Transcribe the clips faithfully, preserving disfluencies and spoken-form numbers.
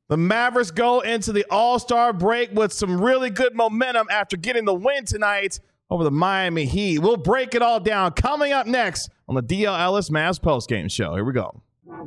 The Mavericks go into the All-Star break with some really good momentum after getting the win tonight over the Miami Heat. We'll break it all down coming up next on the D L Ellis Mavs postgame show. Here we go.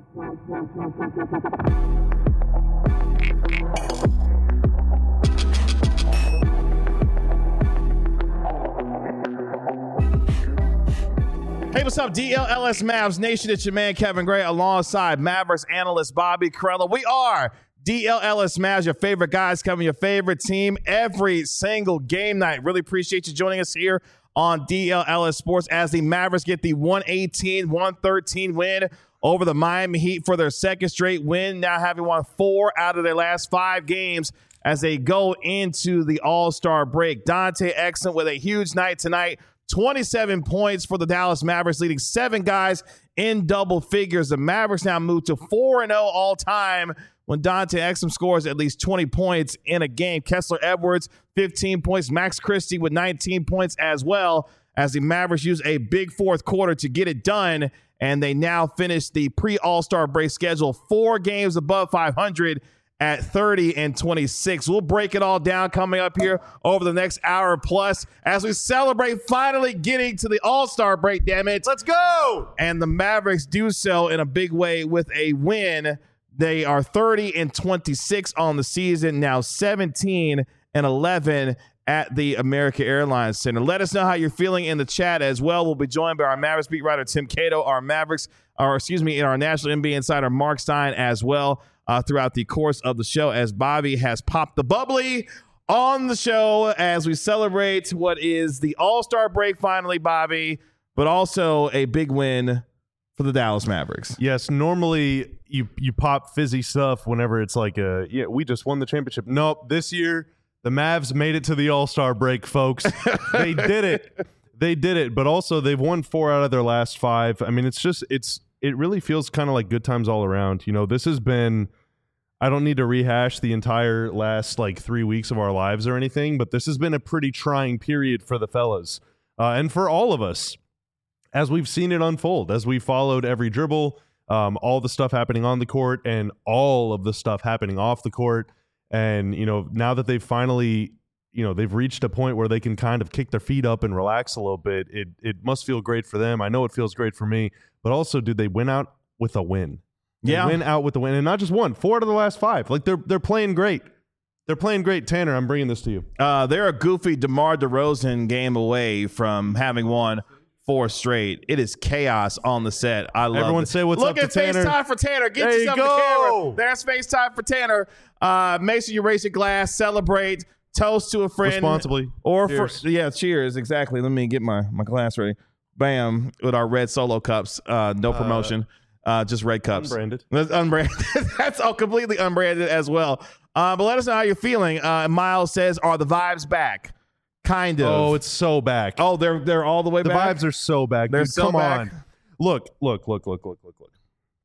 Hey, what's up, D L L S Mavs Nation? It's your man, Kevin Gray, alongside Mavericks analyst Bobby Karalla. We are D L L S Mavs, your favorite guys covering your favorite team every single game night. Really appreciate you joining us here on D L L S Sports as the Mavericks get the one eighteen one thirteen win over the Miami Heat for their second straight win, now having won four out of their last five games as they go into the All-Star break. Dante Exum with a huge night tonight. twenty-seven points for the Dallas Mavericks, leading seven guys in double figures. The Mavericks now move to four and oh all-time when Dante Exum scores at least twenty points in a game. Kessler Edwards, fifteen points. Max Christie with nineteen points as well, as the Mavericks use a big fourth quarter to get it done, and they now finish the pre-All-Star break schedule four games above five hundred at thirty and twenty-six. We'll break it all down coming up here over the next hour plus as we celebrate finally getting to the All-Star break, damn it. Let's go! And the Mavericks do so in a big way with a win. They are thirty and twenty-six on the season, now seventeen and eleven at the American Airlines Center. Let us know how you're feeling in the chat as well. We'll be joined by our Mavericks beat writer Tim Cato, our Mavericks, or excuse me, in our National N B A insider Mark Stein as well. Uh, throughout the course of the show, as Bobby has popped the bubbly on the show as we celebrate what is the All-Star break finally, Bobby, but also a big win for the Dallas Mavericks. Yes, normally you you pop fizzy stuff whenever it's like a, yeah, we just won the championship. Nope, this year the Mavs made it to the All-Star break, folks. They did it. They did it, but also they've won four out of their last five. I mean, it's just, it's, it really feels kind of like good times all around. You know, this has been, I don't need to rehash the entire last like three weeks of our lives or anything, but this has been a pretty trying period for the fellas uh, and for all of us as we've seen it unfold, as we followed every dribble, um, all the stuff happening on the court and all of the stuff happening off the court. And, you know, now that they've finally, you know, they've reached a point where they can kind of kick their feet up and relax a little bit, it it must feel great for them. I know it feels great for me, but also, did they win out with a win? They yeah, win out with the win, and not just one, four out of the last five. Like they're they're playing great. They're playing great. Tanner, I'm bringing this to you. Uh, they're a goofy DeMar DeRozan game away from having won four straight. It is chaos on the set. I love it. Everyone say what's Look up at to Tanner. FaceTime for Tanner. Get there yourself you the camera. go. There's FaceTime for Tanner. Uh, make sure you raise your glass, celebrate, toast to a friend responsibly, or cheers. for yeah, cheers. Exactly. Let me get my my glass ready. Bam, with our red Solo cups. Uh, no promotion. Uh, Uh, just red cups. Unbranded. That's unbranded. That's all completely unbranded as well. Uh, but let us know how you're feeling. Uh, Miles says, "Are the vibes back?" Kind of. Oh, it's so back. Oh, they're they're all the way the back. vibes are so back. They're Dude, so come back. on. Look, look, look, look, look, look, look.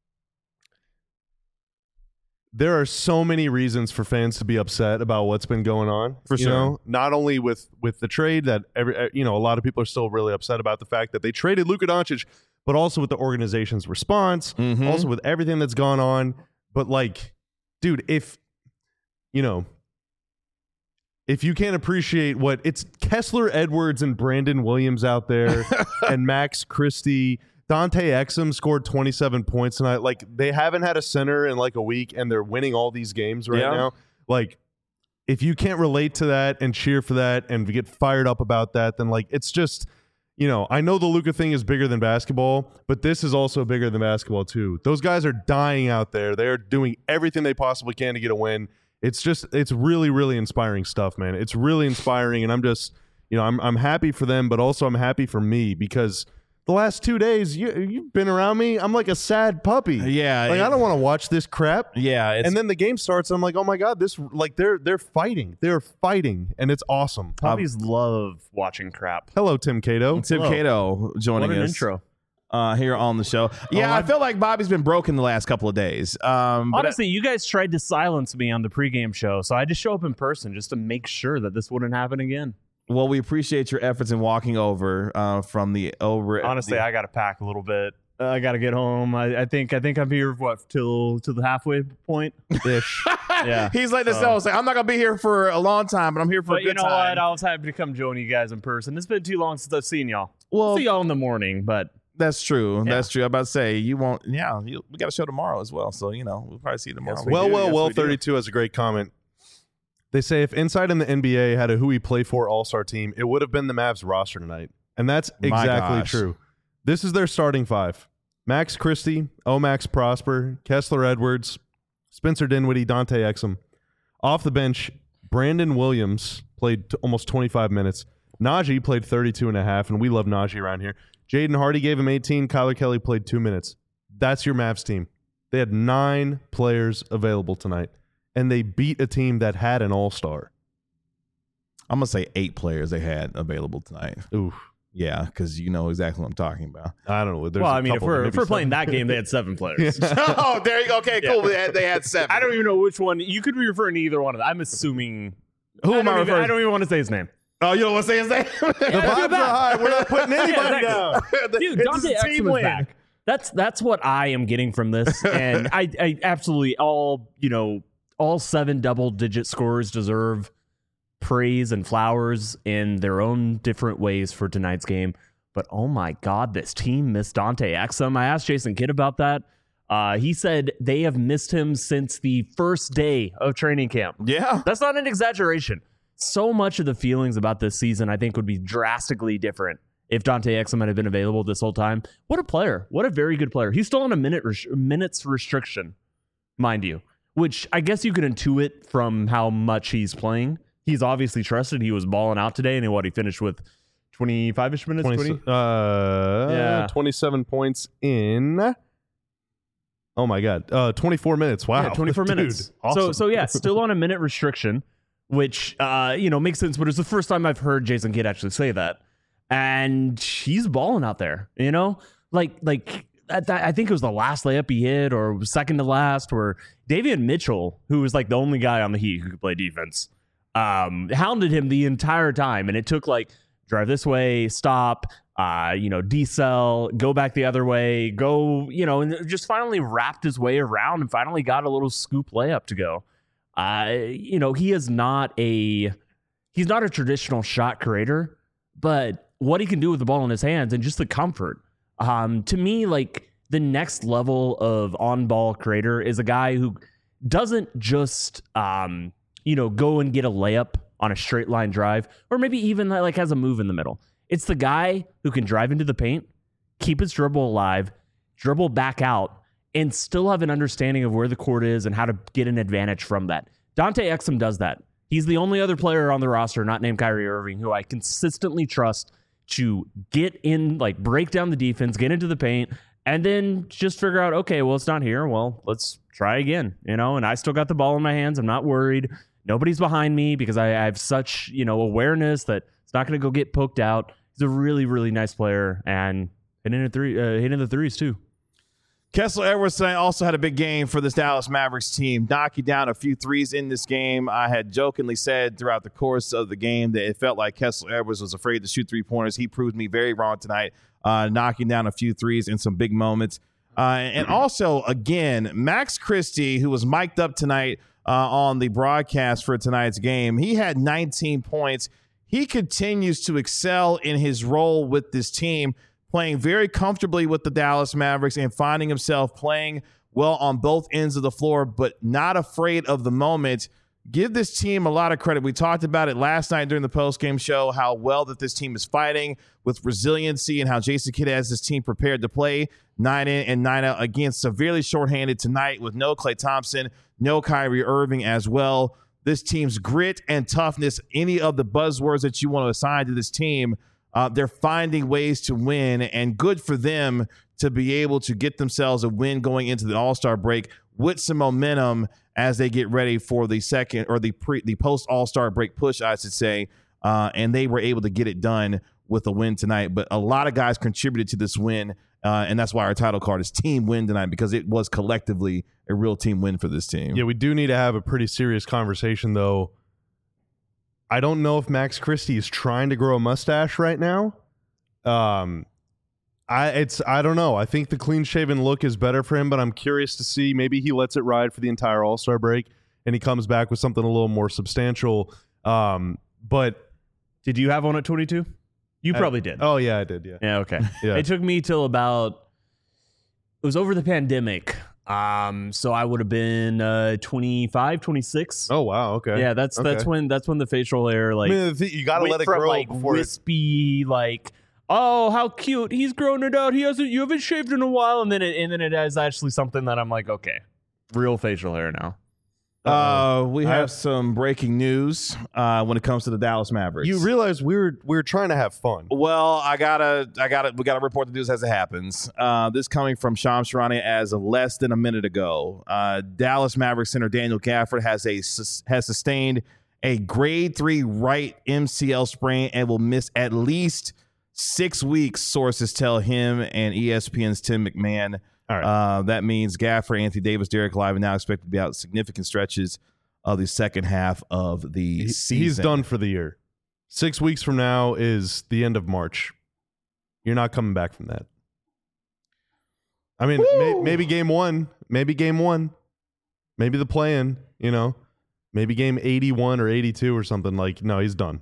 There are so many reasons for fans to be upset about what's been going on. For you sure. know? Not only with with the trade that every you know a lot of people are still really upset about the fact that they traded Luka Doncic, but also with the organization's response, Mhm. also with everything that's gone on. But like, dude, if you know, if you can't appreciate what it's Kessler Edwards and Brandon Williams out there and Max Christie, Dante Exum scored twenty-seven points tonight. Like, they haven't had a center in like a week and they're winning all these games right Yeah. now. Like, if you can't relate to that and cheer for that and get fired up about that, then like, it's just, you know, I know the Luka thing is bigger than basketball, but this is also bigger than basketball too. Those guys are dying out there. They're doing everything they possibly can to get a win. It's just, it's really, really inspiring stuff, man. It's really inspiring. And I'm just, you know, I'm I'm happy for them, but also I'm happy for me because the last two days, you, you've been around me. I'm like a sad puppy. Yeah. Like, it- I don't want to watch this crap. Yeah. It's, And then the game starts, and I'm like, oh my God, this, like, they're they're fighting. They're fighting, and it's awesome. Puppies love watching crap. Hello, Tim Cato. Tim Hello. Cato joining What an us intro. uh, here on the show. Yeah, Oh, I I've- feel like Bobby's been broken the last couple of days. Um, but Honestly, you guys tried to silence me on the pregame show, so I just show up in person just to make sure that this wouldn't happen again. well, we appreciate your efforts in walking over uh, from the over. Honestly, the, I got to pack a little bit. Uh, I gotta get home. I, I think I think I'm here what till till the halfway point ish. Yeah, he's like this. So. I'm not gonna be here for a long time, but I'm here for but a good you know time. what? I was happy to come join you guys in person. It's been too long since I've seen y'all. Well, I'll see y'all in the morning, but that's true. Yeah. That's true. I'm about to say you won't. Yeah, you, we got a show tomorrow as well, so you know we'll probably see you tomorrow. Yes, we well, do. well, Yes, well. we do. thirty-two has a great comment. They say if Inside in the N B A had a who we play for All Star team, it would have been the Mavs roster tonight, and that's My exactly gosh. true. This is their starting five: Max Christie, Omax Prosper, Kessler Edwards, Spencer Dinwiddie, Dante Exum. Off the bench, Brandon Williams played t- almost twenty-five minutes. Najee played thirty-two and a half, and we love Najee around here. Jaden Hardy gave him eighteen. Kyler Kelly played two minutes. That's your Mavs team. They had nine players available tonight, and they beat a team that had an all-star. I'm gonna say eight players they had available tonight. Oof. Yeah, because you know exactly what I'm talking about. I don't know. There's well, a I mean, if couple, we're maybe if we're playing seven. that game, they had seven players. Oh, there you go. Okay, cool. They had, they had seven. I don't even know which one. You could be referring to either one of them. I'm assuming. Who am don't I even- referring? I don't even want to say his name. Oh, you don't want to say his name? The vibes are high. We're not putting anybody down. Dude, It's Dante a team Exum is win. back. That's that's what I am getting from this, and I, I absolutely all you know all seven double digit scorers deserve praise and flowers in their own different ways for tonight's game. But oh my God, this team missed Dante Exum. I asked Jason Kidd about that. Uh, he said they have missed him since the first day of training camp. Yeah. That's not an exaggeration. So much of the feelings about this season, I think, would be drastically different if Dante Exum had been available this whole time. What a player. What a very good player. He's still on a minute res- minutes restriction, mind you, which I guess you could intuit from how much he's playing. He's obviously trusted. He was balling out today, and what he finished with twenty-five-ish minutes? twenty, twenty? uh, Yeah. twenty-seven points in. Oh my God, uh, twenty-four minutes. Wow, Yeah, twenty-four Dude, minutes. awesome. So, so yeah, still on a minute restriction, which uh, you know makes sense. But it's the first time I've heard Jason Kidd actually say that, and he's balling out there. You know, like like that, that, I think it was the last layup he hit, or second to last, where Davion Mitchell, who was like the only guy on the Heat who could play defense, um, hounded him the entire time, and it took like drive this way, stop. Uh, you know, decel, go back the other way, go, you know, and just finally wrapped his way around and finally got a little scoop layup to go. Uh, you know, he is not a he's not a traditional shot creator, but what he can do with the ball in his hands and just the comfort. Um, to me, like the next level of on-ball creator is a guy who doesn't just um, you know, go and get a layup on a straight line drive, or maybe even like has a move in the middle. It's the guy who can drive into the paint, keep his dribble alive, dribble back out, and still have an understanding of where the court is and how to get an advantage from that. Dante Exum does that. He's the only other player on the roster not named Kyrie Irving who I consistently trust to get in, like break down the defense, get into the paint, and then just figure out, okay, well, it's not here. Well, let's try again, you know, and I still got the ball in my hands. I'm not worried. Nobody's behind me because I, I have such, you know, awareness that it's not going to go get poked out. He's a really, really nice player and hitting the three, uh, hitting the threes too. Kessler Edwards tonight also had a big game for this Dallas Mavericks team, knocking down a few threes in this game. I had jokingly said throughout the course of the game that it felt like Kessler Edwards was afraid to shoot three-pointers. He proved me very wrong tonight, uh, knocking down a few threes in some big moments. Uh, and also, again, Max Christie, who was mic'd up tonight uh, on the broadcast for tonight's game, he had nineteen points. He continues to excel in his role with this team, playing very comfortably with the Dallas Mavericks and finding himself playing well on both ends of the floor, but not afraid of the moment. Give this team a lot of credit. We talked about it last night during the postgame show, how well that this team is fighting with resiliency and how Jason Kidd has this team prepared to play nine in and nine out against severely shorthanded tonight with no Klay Thompson, no Kyrie Irving as well. This team's grit and toughness, any of the buzzwords that you want to assign to this team, Uh, they're finding ways to win, and good for them to be able to get themselves a win going into the All-Star break with some momentum as they get ready for the second or the pre the post All-Star break push, I should say. Uh, and they were able to get it done with a win tonight. But a lot of guys contributed to this win, uh, and that's why our title card is Team Win tonight, because it was collectively a real team win for this team. Yeah, we do need to have a pretty serious conversation, though. I don't know if Max Christie is trying to grow a mustache right now. Um, I it's I don't know. I think the clean shaven look is better for him, but I'm curious to see. Maybe he lets it ride for the entire All-Star break, and he comes back with something a little more substantial. Um, but did you have one at twenty-two? You I, probably did. Oh yeah, I did. Yeah. Yeah. Okay. Yeah. It took me till about. It was over the pandemic. Um, so I would have been uh, twenty-five, twenty-six. Oh wow. Okay. Yeah, that's okay. that's when that's when the facial hair like I mean, the, you got to went let it from, grow like before it, wispy, like oh how cute he's grown it out. He hasn't you haven't shaved in a while, and then it and then it is actually something that I'm like okay, real facial hair now. Uh, we have I, some breaking news uh, when it comes to the Dallas Mavericks. You realize we were we were trying to have fun. Well, I gotta, I gotta, we gotta report the news as it happens. Uh, this coming from Shams Charania as of less than a minute ago. Uh, Dallas Mavericks center Daniel Gafford has a has sustained a grade three right M C L sprain and will miss at least six weeks. Sources tell him and E S P N's Tim McMahon. All right. Uh, that means Gafford, Anthony Davis, Derek Lively now expected to be out significant stretches of the second half of the He, season. he's done for the year. Six weeks from now is the end of March. You're not coming back from that. I mean, may, maybe game one, maybe game one, maybe the play-in, you know, maybe game eighty-one or eighty-two or something. Like, no, he's done.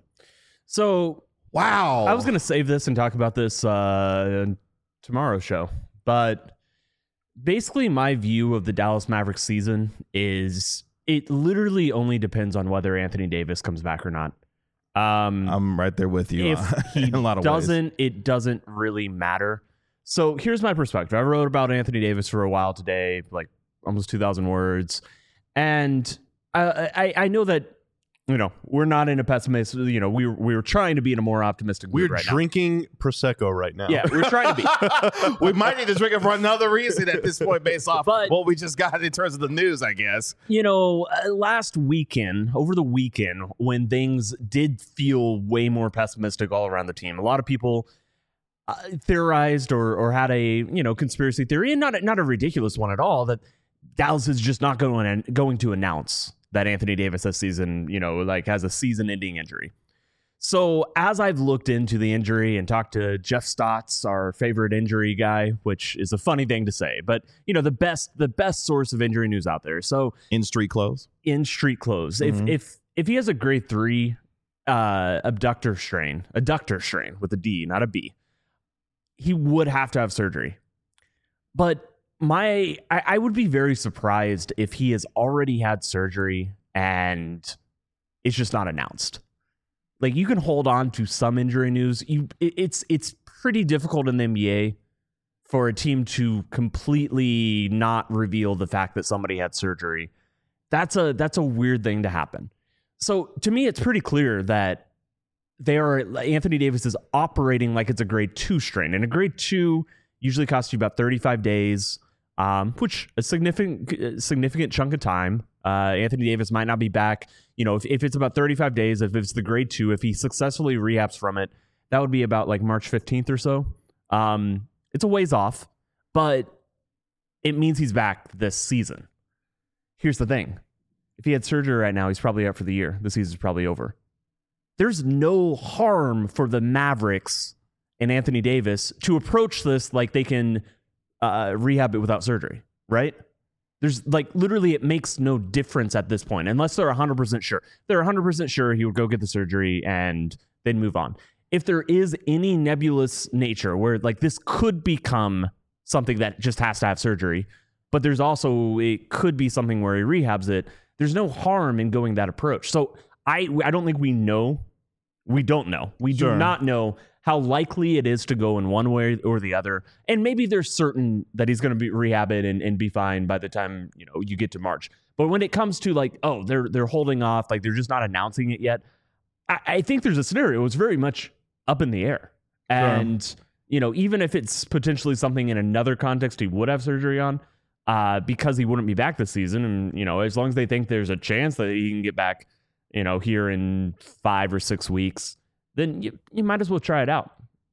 So Wow. I was gonna save this and talk about this uh, tomorrow's show, but basically my view of the Dallas Mavericks season is it literally only depends on whether Anthony Davis comes back or not. Um, I'm right there with you. if he in a lot of doesn't, ways. it doesn't really matter. So here's my perspective. I wrote about Anthony Davis for a while today, like almost two thousand words. And I, I, I know that, you know, we're not in a pessimist, you know, we, we were trying to be in a more optimistic mood We're right drinking Prosecco right now. now. Yeah, we're trying to be. we might need to drink it for another reason at this point based off But- what we just got in terms of the news, I guess. You know, uh, last weekend, over the weekend, when things did feel way more pessimistic all around the team, a lot of people uh, theorized or or had a you know conspiracy theory, and not a, not a ridiculous one at all, that Dallas is just not going going to announce that Anthony Davis this season, you know, like has a season-ending injury. So as I've looked into the injury and talked to Jeff Stotts, our favorite injury guy, which is a funny thing to say, but you know, the best the best source of injury news out there. So In street clothes. in street clothes, Mhm. if if if he has a grade three uh, abductor strain, adductor strain with a D, not a B, he would have to have surgery. But my I, I would be very surprised if he has already had surgery and it's just not announced. Like, you can hold on to some injury news. You, it, it's it's pretty difficult in the N B A for a team to completely not reveal the fact that somebody had surgery. That's a that's a weird thing to happen. So to me, it's pretty clear that they are Anthony Davis is operating like it's a grade two strain, and a grade two usually costs you about thirty-five days, um, which a significant significant chunk of time. Uh, Anthony Davis might not be back. You know, if, if it's about thirty-five days, if it's the grade two, if he successfully rehabs from it, that would be about like March fifteenth or so. Um, it's a ways off, but it means he's back this season. Here's the thing. If he had surgery right now, he's probably out for the year. The season's probably over. There's no harm for the Mavericks and Anthony Davis to approach this like they can uh, rehab it without surgery, right? There's like literally it makes no difference at this point unless they're one hundred percent sure. They're one hundred percent sure he would go get the surgery and then move on. If there is any nebulous nature where like this could become something that just has to have surgery, but there's also it could be something where he rehabs it, there's no harm in going that approach. So I I don't think we know. We don't know. We Sure. do not know how likely it is to go in one way or the other. And maybe there's certain that he's going to be rehab it and, and be fine by the time, you know, you get to March. But when it comes to like, oh, they're they're holding off, like they're just not announcing it yet. I, I think there's a scenario. It's very much up in the air. And, sure. you know, even if it's potentially something in another context he would have surgery on, uh, because he wouldn't be back this season. And, you know, as long as they think there's a chance that he can get back, you know, here in five or six weeks, then you, you might as well try it out.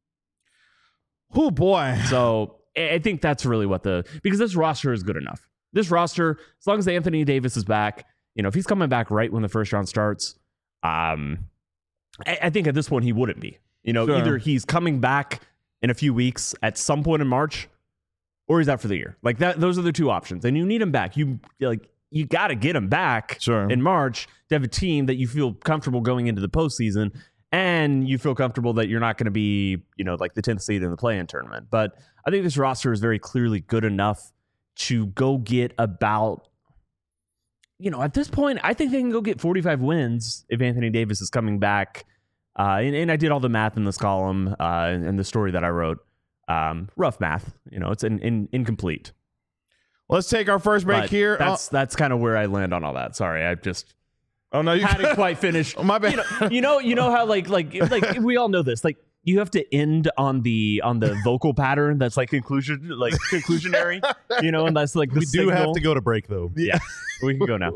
Oh, boy. So I think that's really what the, because this roster is good enough. This roster, as long as Anthony Davis is back, you know, if he's coming back right when the first round starts, um, I, I think at this point he wouldn't be. You know, Sure. either he's coming back in a few weeks at some point in March, or he's out for the year. Like that, those are the two options, and you need him back. You like you got to get him back sure. in March to have a team that you feel comfortable going into the postseason, and you feel comfortable that you're not going to be, you know, like the tenth seed in the play-in tournament. But I think this roster is very clearly good enough to go get about, you know, at this point, I think they can go get forty-five wins if Anthony Davis is coming back. Uh, and, and I did all the math in this column uh, and, and the story that I wrote. Um, rough math, you know, it's in, in, incomplete. Let's take our first break But here. That's oh. that's kind of where I land on all that. Sorry, I just oh no, you hadn't quite finished. Oh, my bad. You know, you know, you know how like like like we all know this. Like you have to end on the on the vocal pattern that's like conclusion like conclusionary. You know, and that's like the we do signal. have to go to break though. Yeah, we can go now.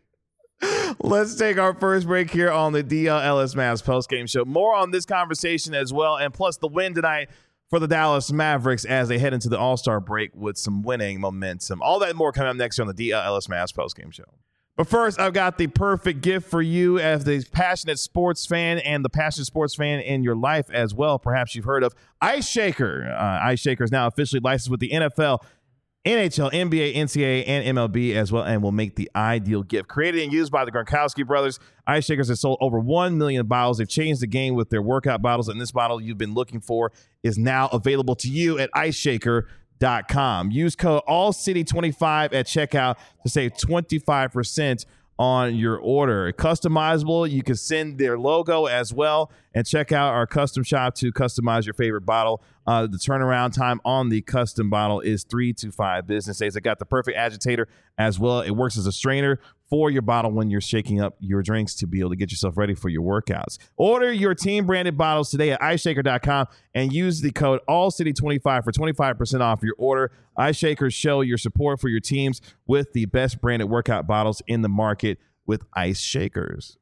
Let's take our first break here on the D L Ellis Mavs postgame show. More on this conversation as well, and plus the win tonight for the Dallas Mavericks as they head into the All-Star break with some winning momentum. All that and more coming up next here on the D L Ellis Mavs postgame show. But first, I've got the perfect gift for you as the passionate sports fan and the passionate sports fan in your life as well. Perhaps you've heard of Ice Shaker. Uh, Ice Shaker is now officially licensed with the N F L, N H L, N B A, N C double A, and M L B as well, and will make the ideal gift. Created and used by the Gronkowski brothers, Ice Shakers have sold over one million bottles. They've changed the game with their workout bottles, and this bottle you've been looking for is now available to you at ice shaker dot com. Use code all city twenty-five at checkout to save twenty-five percent on your order. Customizable, you can send their logo as well, and check out our custom shop to customize your favorite bottle. Uh, the turnaround time on the custom bottle is three to five business days. It got the perfect agitator as well. It works as a strainer for your bottle when you're shaking up your drinks to be able to get yourself ready for your workouts. Order your team branded bottles today at ice shaker dot com and use the code all city twenty-five for twenty-five percent off your order. Ice Shakers show your support for your teams with the best branded workout bottles in the market with Ice Shakers.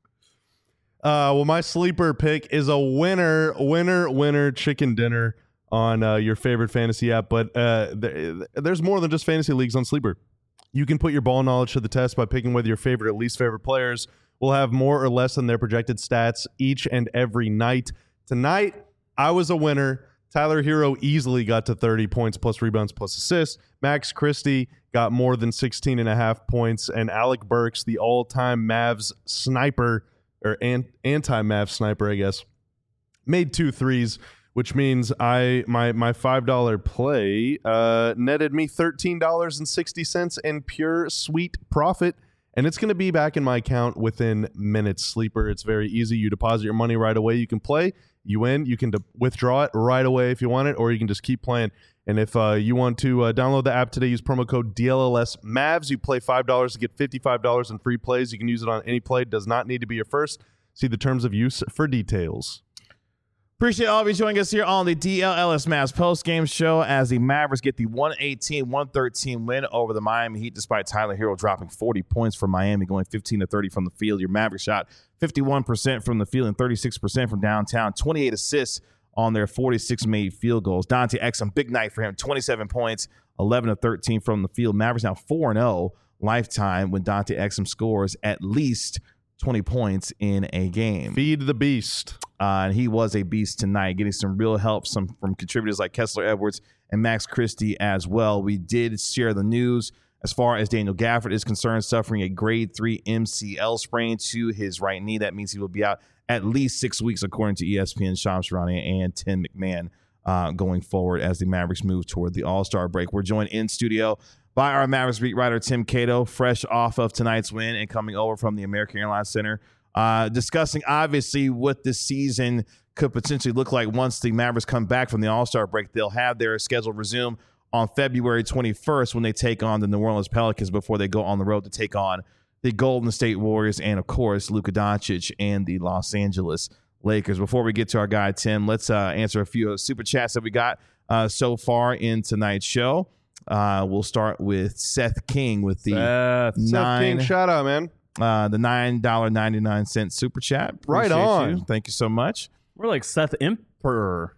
Uh, well, my sleeper pick is a winner, winner, winner chicken dinner on uh, your favorite fantasy app. But uh, th- there's more than just fantasy leagues on Sleeper. You can put your ball knowledge to the test by picking whether your favorite or least favorite players will have more or less than their projected stats each and every night. Tonight, I was a winner. Tyler Hero easily got to thirty points plus rebounds plus assists. Max Christie got more than sixteen and a half points. And Alec Burks, the all-time Mavs sniper, or an- anti-Mavs sniper, I guess, made two threes, which means I my my five dollar play uh, netted me thirteen dollars and sixty cents in pure sweet profit. And it's going to be back in my account within minutes. Sleeper, it's very easy. You deposit your money right away. You can play. You win. You can de- withdraw it right away if you want it, or you can just keep playing. And if uh, you want to uh, download the app today, use promo code D L L S Mavs. You play five dollars to get fifty-five dollars in free plays. You can use it on any play. It does not need to be your first. See the terms of use for details. Appreciate all of you joining us here on the D L L S Mavs post-game show as the Mavericks get the one eighteen one thirteen win over the Miami Heat despite Tyler Hero dropping forty points for Miami, going fifteen to thirty from the field. Your Mavericks shot fifty-one percent from the field and thirty-six percent from downtown, twenty-eight assists on their forty-six made field goals. Dante Exum, big night for him, twenty-seven points, eleven to thirteen from the field. Mavericks now four and oh lifetime when Dante Exum scores at least twenty points in a game. Feed the beast. Uh, and he was a beast tonight, getting some real help some from contributors like Kessler Edwards and Max Christie as well. We did share the news as far as Daniel Gafford is concerned, suffering a grade three M C L sprain to his right knee. That means he will be out at least six weeks, according to E S P N, Shams Charania and Tim McMahon, uh, going forward as the Mavericks move toward the All-Star break. We're joined in studio by our Mavericks beat writer, Tim Cato, fresh off of tonight's win and coming over from the American Airlines Center, uh, discussing obviously what this season could potentially look like once the Mavericks come back from the All-Star break. They'll have their schedule resume on February twenty-first when they take on the New Orleans Pelicans before they go on the road to take on the Golden State Warriors and, of course, Luka Doncic and the Los Angeles Lakers. Before we get to our guy, Tim, let's uh, answer a few super chats that we got uh, so far in tonight's show. Uh, we'll start with Seth King with the Seth. nine, Seth King, shout out, man. Uh, the nine dollars and ninety-nine cents super chat. Right Appreciate on. you. Thank you so much. We're like Seth Emperor.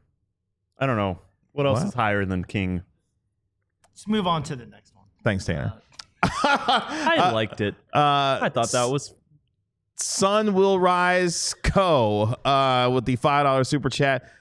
I don't know. What else Wow. is higher than King? Let's move on to the next one. Thanks, Tanner. I liked it. Uh, I thought that was Sun Will Rise Co. Uh, with the five dollars super chat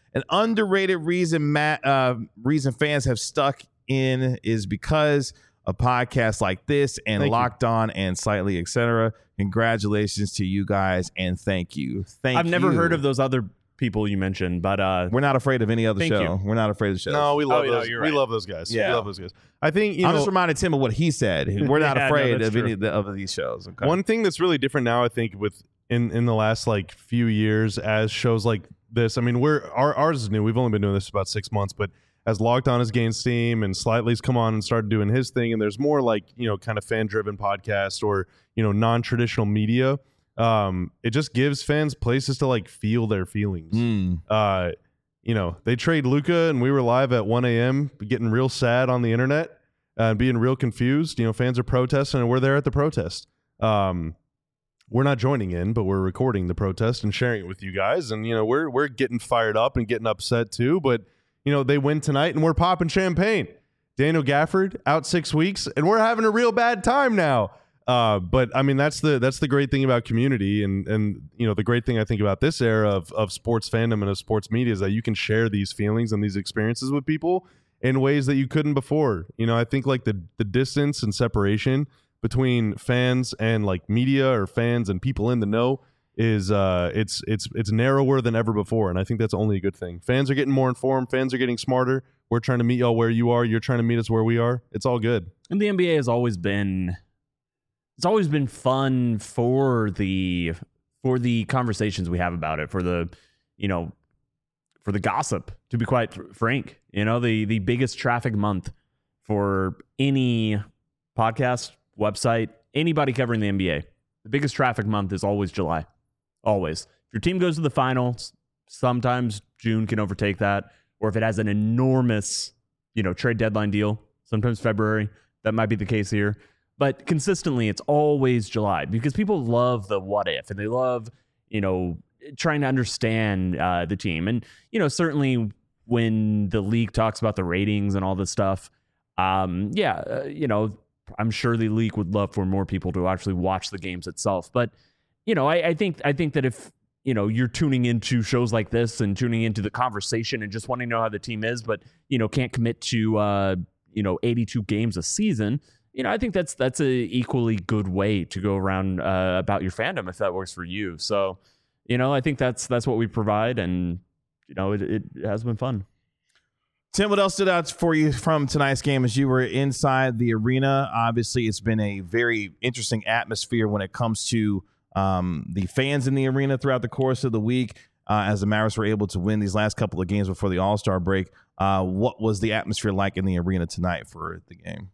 An underrated reason Matt, uh, reason fans have stuck in is because of podcasts like this and Thank Locked On and Slightly, et cetera. Congratulations to you guys and thank you. Thank I've never you. heard of those other people you mentioned, but uh, We're not afraid of any other Thank show. you. We're not afraid of shows. No, we love Oh, no, those. you're We right. love those guys. Yeah. We love those guys. I think you I know. just reminded Tim of what he said. We're not Yeah, no, afraid that's of any true. of, the, of these shows. Okay. One thing that's really different now, I think, with in in the last like few years, as shows like this. I mean, we're our ours is new. We've only been doing this for about six months, but as Locked On has gained steam and Slightly's come on and started doing his thing, and there's more like you know kind of fan driven podcasts or you know non traditional media. Um, it just gives fans places to like feel their feelings. Mm. Uh, you know, they trade Luka, and we were live at one a.m. getting real sad on the internet uh, and being real confused. You know, fans are protesting, and we're there at the protest. Um, we're not joining in, but we're recording the protest and sharing it with you guys. And you know, we're we're getting fired up and getting upset too. But you know, they win tonight, and we're popping champagne. Daniel Gafford out six weeks, and we're having a real bad time now. Uh, but I mean, that's the that's the great thing about community, and and you know the great thing I think about this era of of sports fandom and of sports media is that you can share these feelings and these experiences with people in ways that you couldn't before. You know, I think like the the distance and separation between fans and like media or fans and people in the know is uh it's it's it's narrower than ever before, and I think that's only a good thing. Fans are getting more informed. Fans are getting smarter. We're trying to meet y'all where you are. You're trying to meet us where we are. It's all good. and the N B A has always been. It's always been fun for the for the conversations we have about it, for the you know for the gossip. To be quite fr- frank, you know the the biggest traffic month for any podcast, website, anybody covering the N B A. The biggest traffic month is always July. Always. If your team goes to the finals, sometimes June can overtake that, or if it has an enormous you know trade deadline deal, sometimes February. That might be the case here. But consistently, it's always July because people love the what if, and they love, you know, trying to understand uh, the team. And, you know, certainly when the league talks about the ratings and all this stuff, um, yeah, uh, you know, I'm sure the league would love for more people to actually watch the games itself. But, you know, I, I think I think that if, you know, you're tuning into shows like this and tuning into the conversation and just wanting to know how the team is, but, you know, can't commit to, uh, you know, eighty-two games a season, you know, I think that's that's a equally good way to go around uh, about your fandom if that works for you. So, you know, I think that's that's what we provide, and you know, it, it has been fun. Tim, what else stood out for you from tonight's game as you were inside the arena? Obviously, it's been a very interesting atmosphere when it comes to um, the fans in the arena throughout the course of the week. Uh, as the Mavericks were able to win these last couple of games before the All-Star break, uh, what was the atmosphere like in the arena tonight for the game?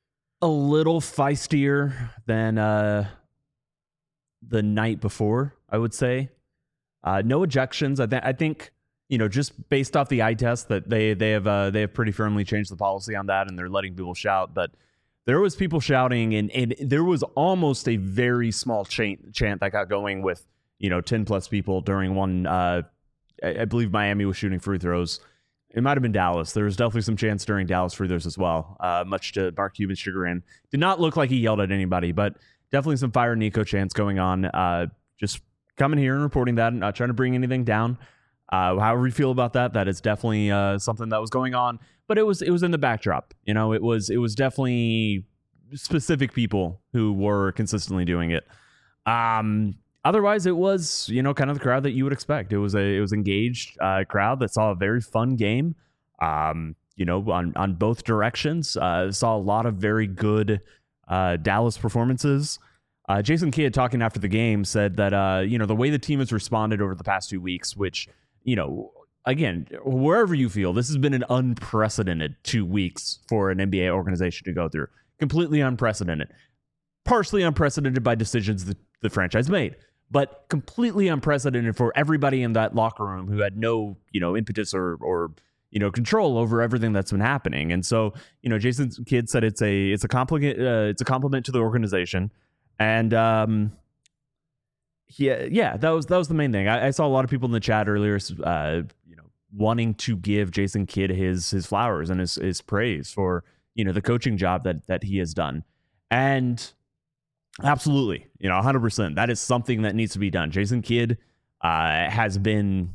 A little feistier than uh, the night before, I would say. Uh, no ejections. I, th- I think you know, just based off the eye test, that they they have uh, they have pretty firmly changed the policy on that, and they're letting people shout. But there was people shouting, and and there was almost a very small chant chant that got going with you know ten plus people during one. Uh, I, I believe Miami was shooting free throws. It might have been Dallas. There was definitely some chants during Dallas free throws as well, uh, much to Mark Cuban's chagrin. Did not look like he yelled at anybody, but definitely some Fire Nico chants going on. Uh, just coming here and reporting that, not trying to bring anything down. Uh, however you feel about that, that is definitely uh, something that was going on. But it was it was in the backdrop. You know, it was it was definitely specific people who were consistently doing it. Um, Otherwise, it was, you know, kind of the crowd that you would expect. It was a it was engaged uh, crowd that saw a very fun game, um, you know, on, on both directions. Uh, saw a lot of very good uh, Dallas performances. Uh, Jason Kidd, talking after the game, said that, uh, you know, the way the team has responded over the past two weeks, which, you know, again, wherever you feel, this has been an unprecedented two weeks for an N B A organization to go through. Completely unprecedented. Partially unprecedented by decisions that the franchise made, but completely unprecedented for everybody in that locker room who had no, you know, impetus or, or, you know, control over everything that's been happening. And so, you know, Jason Kidd said it's a, it's a compliment, uh, it's a compliment to the organization. And, um, yeah, yeah, that was, that was the main thing. I, I saw a lot of people in the chat earlier, uh, you know, wanting to give Jason Kidd his, his flowers and his, his praise for, you know, the coaching job that, that he has done. And, absolutely. You know, one hundred percent. That is something that needs to be done. Jason Kidd uh, has been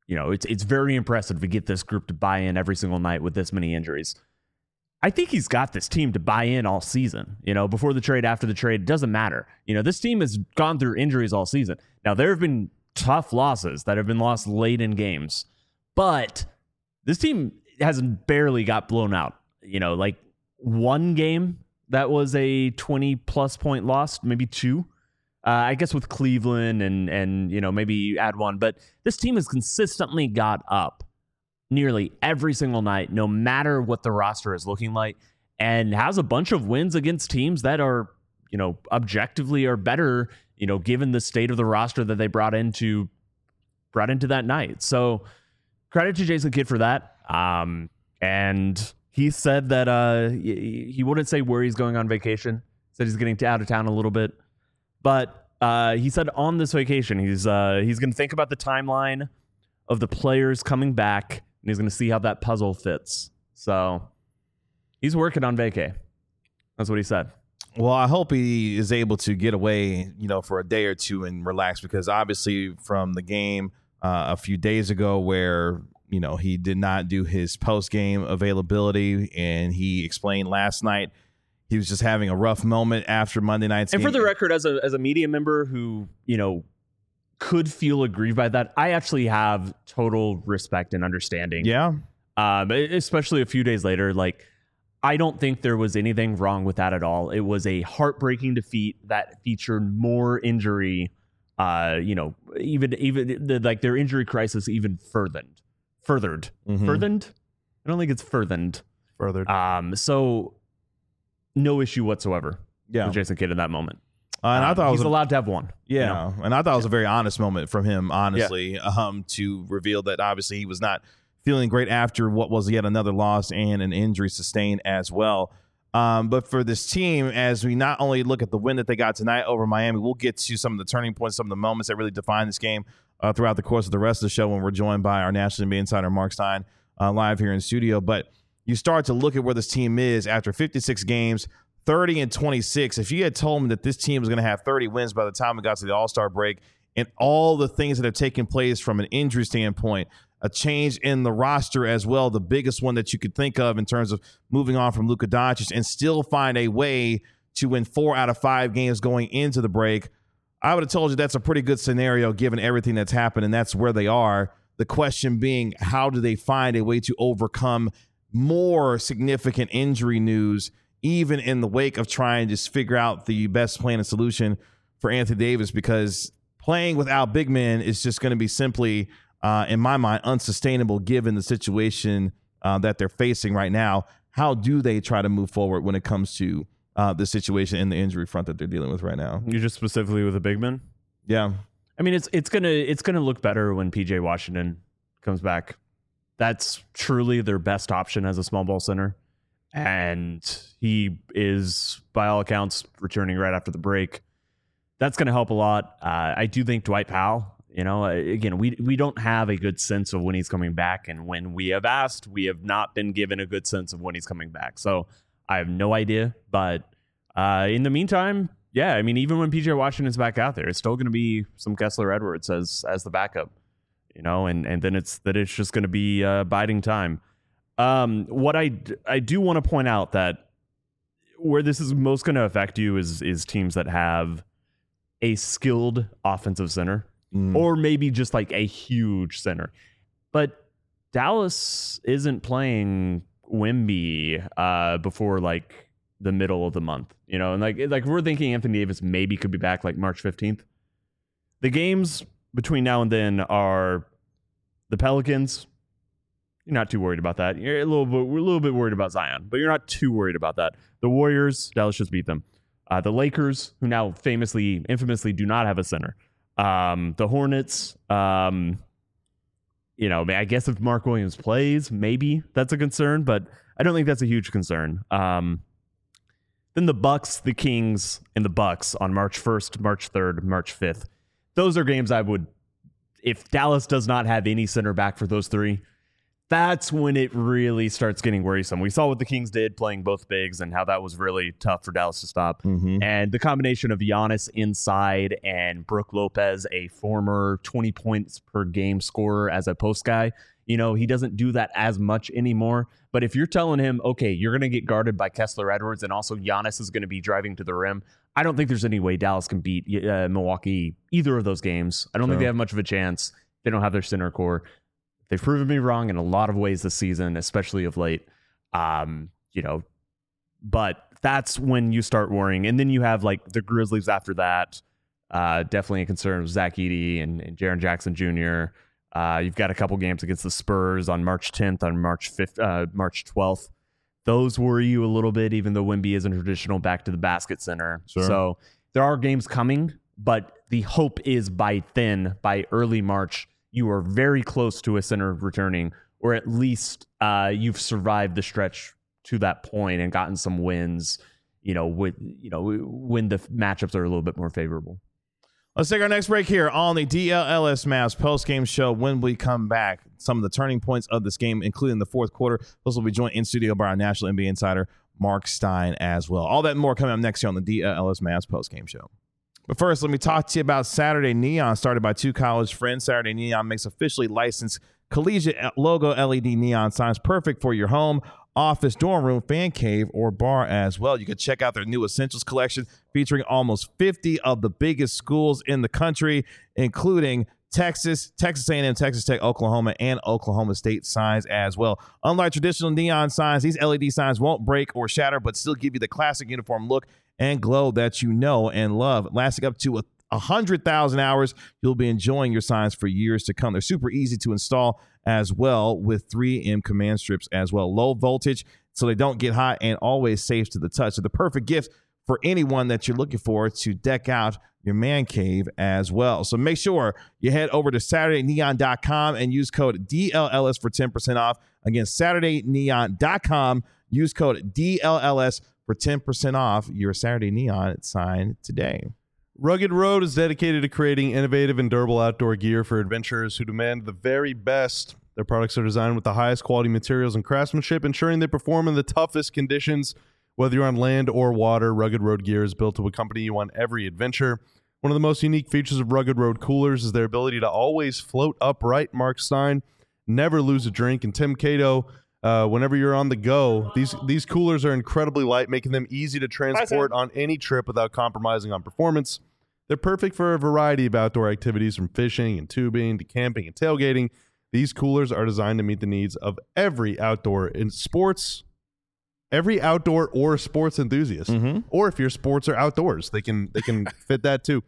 you know, it's it's very impressive to get this group to buy in every single night with this many injuries. I think he's got this team to buy in all season. You know, before the trade, after the trade, it doesn't matter. You know, this team has gone through injuries all season. Now, there have been tough losses that have been lost late in games, but this team hasn't barely got blown out. You know, like one game that was a twenty plus point loss, maybe two. Uh, I guess with Cleveland and and you know maybe you add one, but this team has consistently got up nearly every single night, no matter what the roster is looking like, and has a bunch of wins against teams that are, you know, objectively are better, you know, given the state of the roster that they brought into brought into that night. So credit to Jason Kidd for that. Um, and he said that uh, he wouldn't say where he's going on vacation. Said he's getting out of town a little bit, but uh, he said on this vacation he's uh, he's going to think about the timeline of the players coming back. And he's going to see how that puzzle fits. So he's working on vacay. That's what he said. Well, I hope he is able to get away, you know, for a day or two and relax, because obviously from the game uh, a few days ago where, you know, he did not do his post-game availability, and he explained last night he was just having a rough moment after Monday night's and game. And for the record, as a as a media member who, you know, could feel aggrieved by that, I actually have total respect and understanding. Yeah. Um, especially a few days later, like, I don't think there was anything wrong with that at all. It was a heartbreaking defeat that featured more injury. Uh, you know, even even the, like their injury crisis even furthered, furthered, Mm-hmm. furthered. I don't think it's furthered. Furthered. Um, so no issue whatsoever. Yeah. With Jason Kidd in that moment. Uh, and um, I thought it was he's a, allowed to have one. Yeah, you know? and I thought it was a very honest moment from him, honestly, um, to reveal that obviously he was not feeling great after what was yet another loss and an injury sustained as well. Um, but for this team, as we not only look at the win that they got tonight over Miami, we'll get to some of the turning points, some of the moments that really define this game uh, throughout the course of the rest of the show when we're joined by our National N B A insider, Mark Stein, uh, live here in studio. But you start to look at where this team is after fifty-six games, thirty and twenty-six. If you had told me that this team was going to have thirty wins by the time we got to the All-Star break, and all the things that have taken place from an injury standpoint, a change in the roster as well, the biggest one that you could think of in terms of moving on from Luka Doncic, and still find a way to win four out of five games going into the break, I would have told you that's a pretty good scenario given everything that's happened, and that's where they are. The question being, how do they find a way to overcome more significant injury news, even in the wake of trying to just figure out the best plan and solution for Anthony Davis? Because playing without big men is just going to be simply, uh, in my mind, unsustainable given the situation uh, that they're facing right now. How do they try to move forward when it comes to uh, the situation in the injury front that they're dealing with right now? You just specifically with a big man? Yeah. I mean, it's it's gonna it's gonna look better when P J Washington comes back. That's truly their best option as a small ball center. And he is, by all accounts, returning right after the break. That's going to help a lot. Uh, I do think Dwight Powell, you know, again, we we don't have a good sense of when he's coming back. And when we have asked, we have not been given a good sense of when he's coming back. So I have no idea. But uh, in the meantime, yeah, I mean, even when P J Washington's back out there, it's still going to be some Kessler Edwards as as the backup, you know, and, and then it's that it's just going to be uh, biding time. Um, what I, I do want to point out that where this is most going to affect you is is teams that have a skilled offensive center, Mm. or maybe just like a huge center. But Dallas isn't playing Wemby uh, before like the middle of the month, you know, and like like we're thinking Anthony Davis maybe could be back like March fifteenth. The games between now and then are the Pelicans. You're not too worried about that. You're a little bit, we're a little bit worried about Zion, but you're not too worried about that. The Warriors, Dallas just beat them. Uh, the Lakers, who now famously, infamously do not have a center. Um, the Hornets, um, you know, I guess if Mark Williams plays, maybe that's a concern, but I don't think that's a huge concern. Um, then the Bucks, the Kings, and the Bucks on March first, March third, March fifth. Those are games I would, if Dallas does not have any center back for those three, that's when it really starts getting worrisome. We saw what the Kings did playing both bigs and how that was really tough for Dallas to stop. Mm-hmm. And the combination of Giannis inside and Brook Lopez, a former twenty points per game scorer as a post guy, you know, he doesn't do that as much anymore. But if you're telling him, okay, you're going to get guarded by Kessler Edwards and also Giannis is going to be driving to the rim, I don't think there's any way Dallas can beat uh, Milwaukee either of those games. I don't Sure. think they have much of a chance. They don't have their center core. They've proven me wrong in a lot of ways this season, especially of late. Um, you know, but that's when you start worrying. And then you have like the Grizzlies after that. Uh, definitely a concern with Zach Edey and, and Jaren Jackson Junior Uh, you've got a couple games against the Spurs on March tenth, on March fifth, uh, March twelfth. Those worry you a little bit, even though Wemby isn't a traditional back to the basket center. Sure. So there are games coming, but the hope is by then, by early March, you are very close to a center returning, or at least uh, you've survived the stretch to that point and gotten some wins, you know, with, you know, when the matchups are a little bit more favorable. Let's take our next break here on the D L L S Mavs post-game show. When we come back, some of the turning points of this game, including the fourth quarter. Those will be joined in studio by our national N B A insider, Mark Stein, as well. All that and more coming up next here on the D L L S Mavs post-game show. But first, let me talk to you about Saturday Neon, started by two college friends. Saturday Neon makes officially licensed collegiate logo L E D neon signs, perfect for your home, office, dorm room, fan cave, or bar as well. You can check out their new Essentials collection featuring almost fifty of the biggest schools in the country, including Texas, Texas A and M, Texas Tech, Oklahoma, and Oklahoma State signs as well. Unlike traditional neon signs, these L E D signs won't break or shatter, but still give you the classic uniform look and glow that you know and love. Lasting up to a one hundred thousand hours, you'll be enjoying your signs for years to come. They're super easy to install as well with three M command strips as well. Low voltage, so they don't get hot, and always safe to the touch. So the perfect gift for anyone that you're looking for to deck out your man cave as well. So make sure you head over to Saturday Neon dot com and use code D L L S for ten percent off. Again, Saturday Neon dot com. Use code D L L S for ten percent off your Saturday Neon sign today. Rugged Road is dedicated to creating innovative and durable outdoor gear for adventurers who demand the very best. Their products are designed with the highest quality materials and craftsmanship, ensuring they perform in the toughest conditions. Whether you're on land or water, Rugged Road gear is built to accompany you on every adventure. One of the most unique features of Rugged Road coolers is their ability to always float upright. Mark Stein, never lose a drink, and Tim Cato, uh, whenever you're on the go, these these coolers are incredibly light, making them easy to transport on any trip without compromising on performance. They're perfect for a variety of outdoor activities, from fishing and tubing to camping and tailgating. These coolers are designed to meet the needs of every outdoor in sports, every outdoor or sports enthusiast, Mm-hmm. or if your sports are outdoors, they can they can fit that too.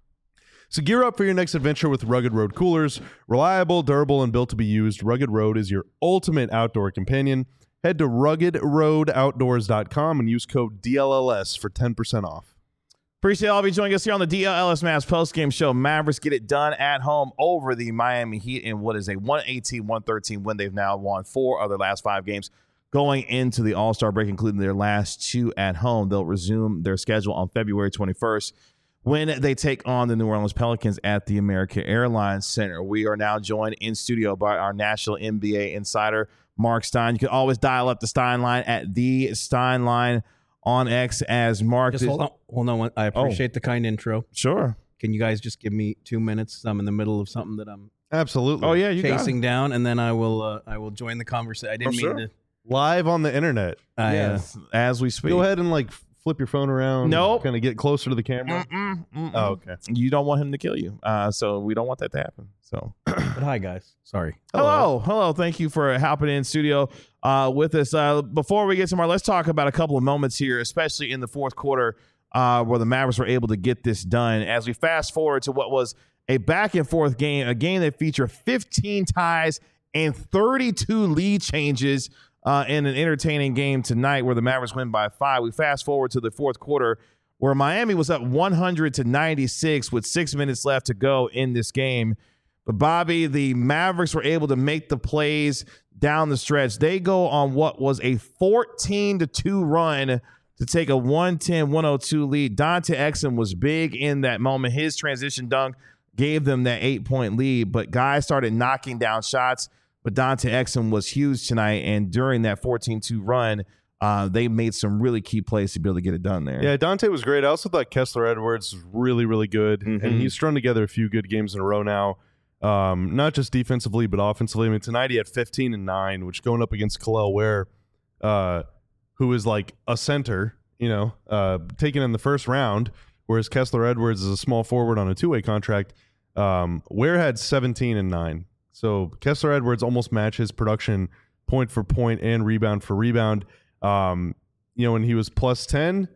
So gear up for your next adventure with Rugged Road coolers. Reliable, durable, and built to be used, Rugged Road is your ultimate outdoor companion. Head to rugged road outdoors dot com and use code D L L S for ten percent off. Appreciate all of you joining us here on the D L L S Mavs postgame show. Mavericks get it done at home over the Miami Heat in what is a one eighteen one thirteen win. They've now won four of their last five games going into the All-Star break, including their last two at home. They'll resume their schedule on February twenty-first when they take on the New Orleans Pelicans at the American Airlines Center. We are now joined in studio by our national N B A insider, Mark Stein. You can always dial up the Stein line at the Stein line on X as Mark. Just hold on. Hold on. I appreciate the kind intro. Sure. Can you guys just give me two minutes? I'm in the middle of something that I'm Absolutely. Oh, yeah, you got it. chasing down, and then I will uh, I will join the conversation. I didn't Oh, mean sure. to. Live on the internet. I, uh, Yes, as we speak. Go ahead and like flip your phone around. Nope. Kind of get closer to the camera. Mm-mm, mm-mm. Oh, okay. You don't want him to kill you, uh, so we don't want that to happen. So, but hi, guys. Sorry. hello, hello. Thank you for hopping in studio uh, with us. Uh, before we get to more, let's talk about a couple of moments here, especially in the fourth quarter, uh, where the Mavericks were able to get this done. As we fast forward to what was a back and forth game, a game that featured fifteen ties and thirty-two lead changes. Uh, in an entertaining game tonight where the Mavericks win by five. We fast forward to the fourth quarter where Miami was up one hundred to ninety-six with six minutes left to go in this game. But Bobby, the Mavericks were able to make the plays down the stretch. They go on what was a fourteen to two run to take a one ten one oh two lead. Dante Exum was big in that moment. His transition dunk gave them that eight-point lead, but guys started knocking down shots. but Dante Exum was huge tonight. And during that fourteen two run, uh, they made some really key plays to be able to get it done there. Yeah, Dante was great. I also thought Kessler Edwards was really, really good. Mhm. And he's strung together a few good games in a row now. Um, not just defensively, but offensively. I mean, tonight he had fifteen and nine, which going up against Khalil Ware, uh, who is like a center, you know, uh, taken in the first round, whereas Kessler Edwards is a small forward on a two-way contract. Um, Ware had seventeen and nine. So Kessler Edwards almost matched his production point for point and rebound for rebound. Um, you know, when he was plus ten.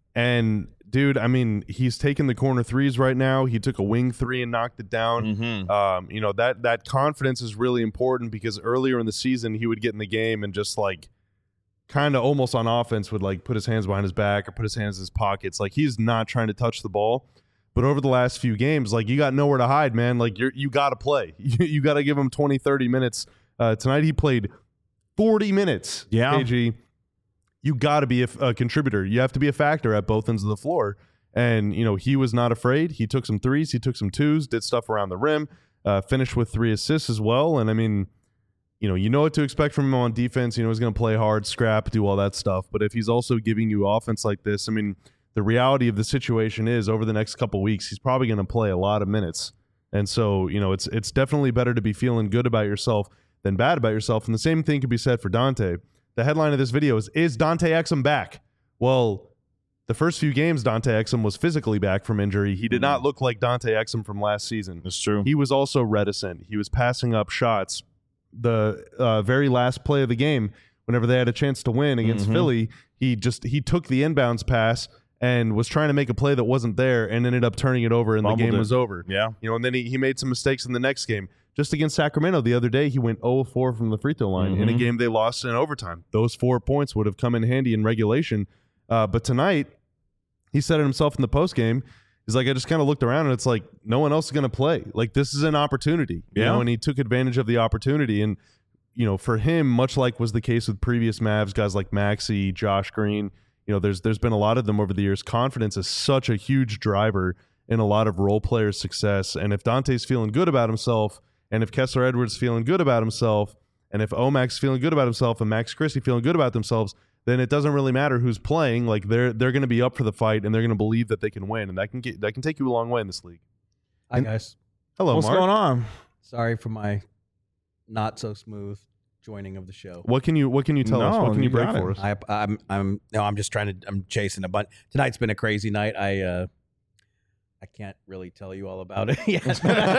And dude, I mean, he's taking the corner threes right now. He took a wing three and knocked it down. Mm-hmm. Um, you know, that that confidence is really important because earlier in the season he would get in the game and just like kind of almost on offense would like put his hands behind his back or put his hands in his pockets. Like he's not trying to touch the ball. But over the last few games, like you got nowhere to hide, man. Like you're you got to play. You, you got to give him twenty, thirty minutes. Uh, tonight he played forty minutes. Yeah. K G. You got to be a, a contributor. You have to be a factor at both ends of the floor. And, you know, he was not afraid. He took some threes. He took some twos, did stuff around the rim, uh, finished with three assists as well. And, I mean, you know, you know what to expect from him on defense. You know, he's going to play hard, scrap, do all that stuff. But if he's also giving you offense like this, I mean, the reality of the situation is over the next couple weeks, he's probably going to play a lot of minutes. And so, you know, it's it's definitely better to be feeling good about yourself than bad about yourself. And the same thing could be said for Dante. The headline of this video is, is Dante Exum back? Well, the first few games, Dante Exum was physically back from injury. He did not look like Dante Exum from last season. That's true. He was also reticent. He was passing up shots. The uh, very last play of the game, whenever they had a chance to win against Mhm. Philly, he just he took the inbounds pass and was trying to make a play that wasn't there and ended up turning it over and Fumbled the game it. was over. Yeah. You know, and then he, he made some mistakes in the next game. Just against Sacramento the other day, he went zero of four from the free throw line in a Mhm. game they lost in overtime. Those four points would have come in handy in regulation. Uh, but tonight, he said it himself in the post game. He's like, I just kind of looked around and it's like, no one else is going to play. Like, this is an opportunity. You Yeah. know, and he took advantage of the opportunity. And, you know, for him, much like was the case with previous Mavs, guys like Maxey, Josh Green, you know, there's there's been a lot of them over the years. Confidence is such a huge driver in a lot of role players' success. And if Dante's feeling good about himself, and if Kessler Edwards feeling good about himself, and if Omac's feeling good about himself, and Max Christie feeling good about themselves, then it doesn't really matter who's playing. Like they're they're going to be up for the fight, and they're going to believe that they can win, and that can get that can take you a long way in this league. Hi, guys. Hello, What's Mark. going on? Sorry for my not so smooth joining of the show. What can you What can you tell us? No, What can you you break got it. for us? I, I'm, I'm, no, I'm just trying to, I'm chasing a bunch. Tonight's been a crazy night. I, uh, I can't really tell you all about it yet,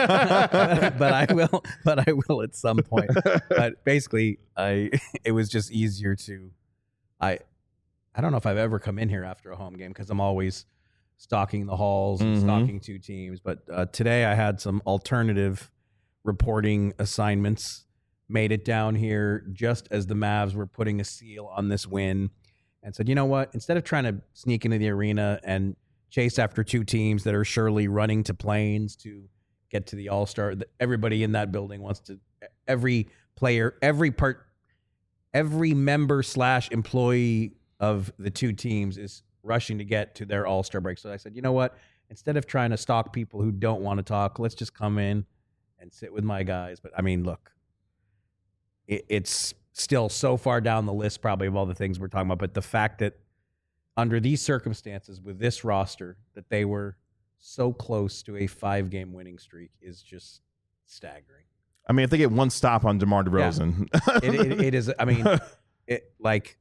but I will, but I will at some point. But basically, I, it was just easier to, I, I don't know if I've ever come in here after a home game because I'm always stalking the halls and Mhm. stalking two teams. But uh, today I had some alternative reporting assignments. Made it down here just as the Mavs were putting a seal on this win, and said, you know what? Instead of trying to sneak into the arena and chase after two teams that are surely running to planes to get to the All-Star, everybody in that building wants to. Every player, every part, every member slash employee of the two teams is rushing to get to their All-Star break. So I said, you know what? Instead of trying to stalk people who don't want to talk, let's just come in and sit with my guys. But I mean, look, it, it's still so far down the list probably of all the things we're talking about. But the fact that under these circumstances with this roster that they were so close to a five-game winning streak is just staggering. I mean, if they get one stop on DeMar DeRozan. It, it, it is, I mean, it like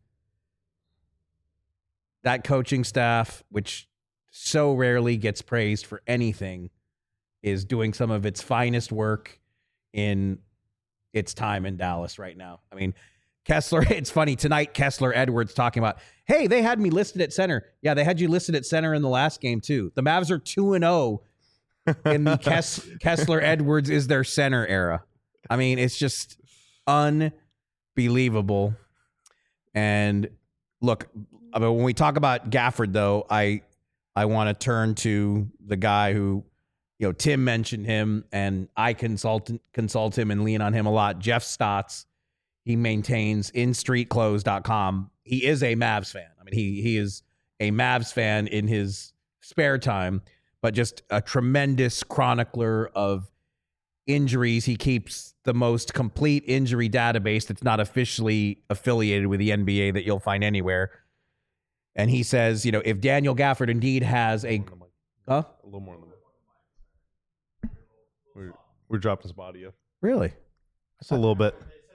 that coaching staff, which so rarely gets praised for anything, is doing some of its finest work in its time in Dallas right now. I mean, Kessler, it's funny, tonight Kessler Edwards talking about, hey, they had me listed at center. Yeah, they had you listed at center in the last game too. The Mavs are two and oh in the Kess, Kessler Edwards is their center era. I mean, it's just unbelievable. And look, I mean, when we talk about Gafford, though, I I want to turn to the guy who, you know, Tim mentioned him, and I consult consult him and lean on him a lot. Jeff Stotts, he maintains in street clothes dot com. He is a Mavs fan. I mean, he he is a Mavs fan in his spare time, but just a tremendous chronicler of injuries, he keeps the most complete injury database that's not officially affiliated with the N B A that you'll find anywhere. And he says, you know, if Daniel Gafford indeed has a, huh? A little more than that. We're, we're dropping some audio. Really? Just a little bit.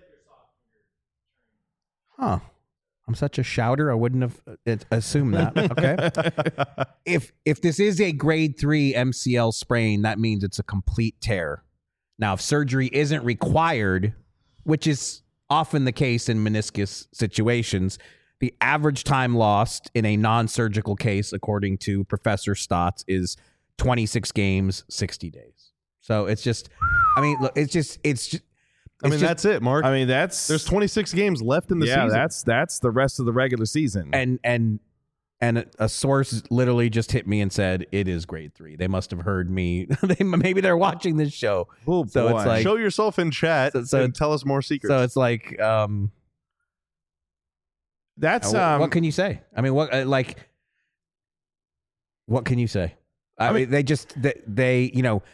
Huh. I'm such a shouter. I wouldn't have uh, assumed that. Okay. if if this is a grade three M C L sprain, that means it's a complete tear. Now, if surgery isn't required, which is often the case in meniscus situations, the average time lost in a non-surgical case, according to Professor Stotts, is twenty-six games, sixty days. So it's just, I mean, look, it's just, it's just, I mean, just, that's it, Mark. I mean, that's There's twenty-six games left in the yeah, season. that's that's the rest of the regular season. and and and a source literally just hit me and said it is grade three. They must have heard me. they maybe they're watching this show. Oh, so boy. it's like Show yourself in chat So- so- and tell us more secrets. so it's like um, that's uh, um, what can you say? I mean, what uh, like what can you say? I, I mean, mean- they just they, they you know.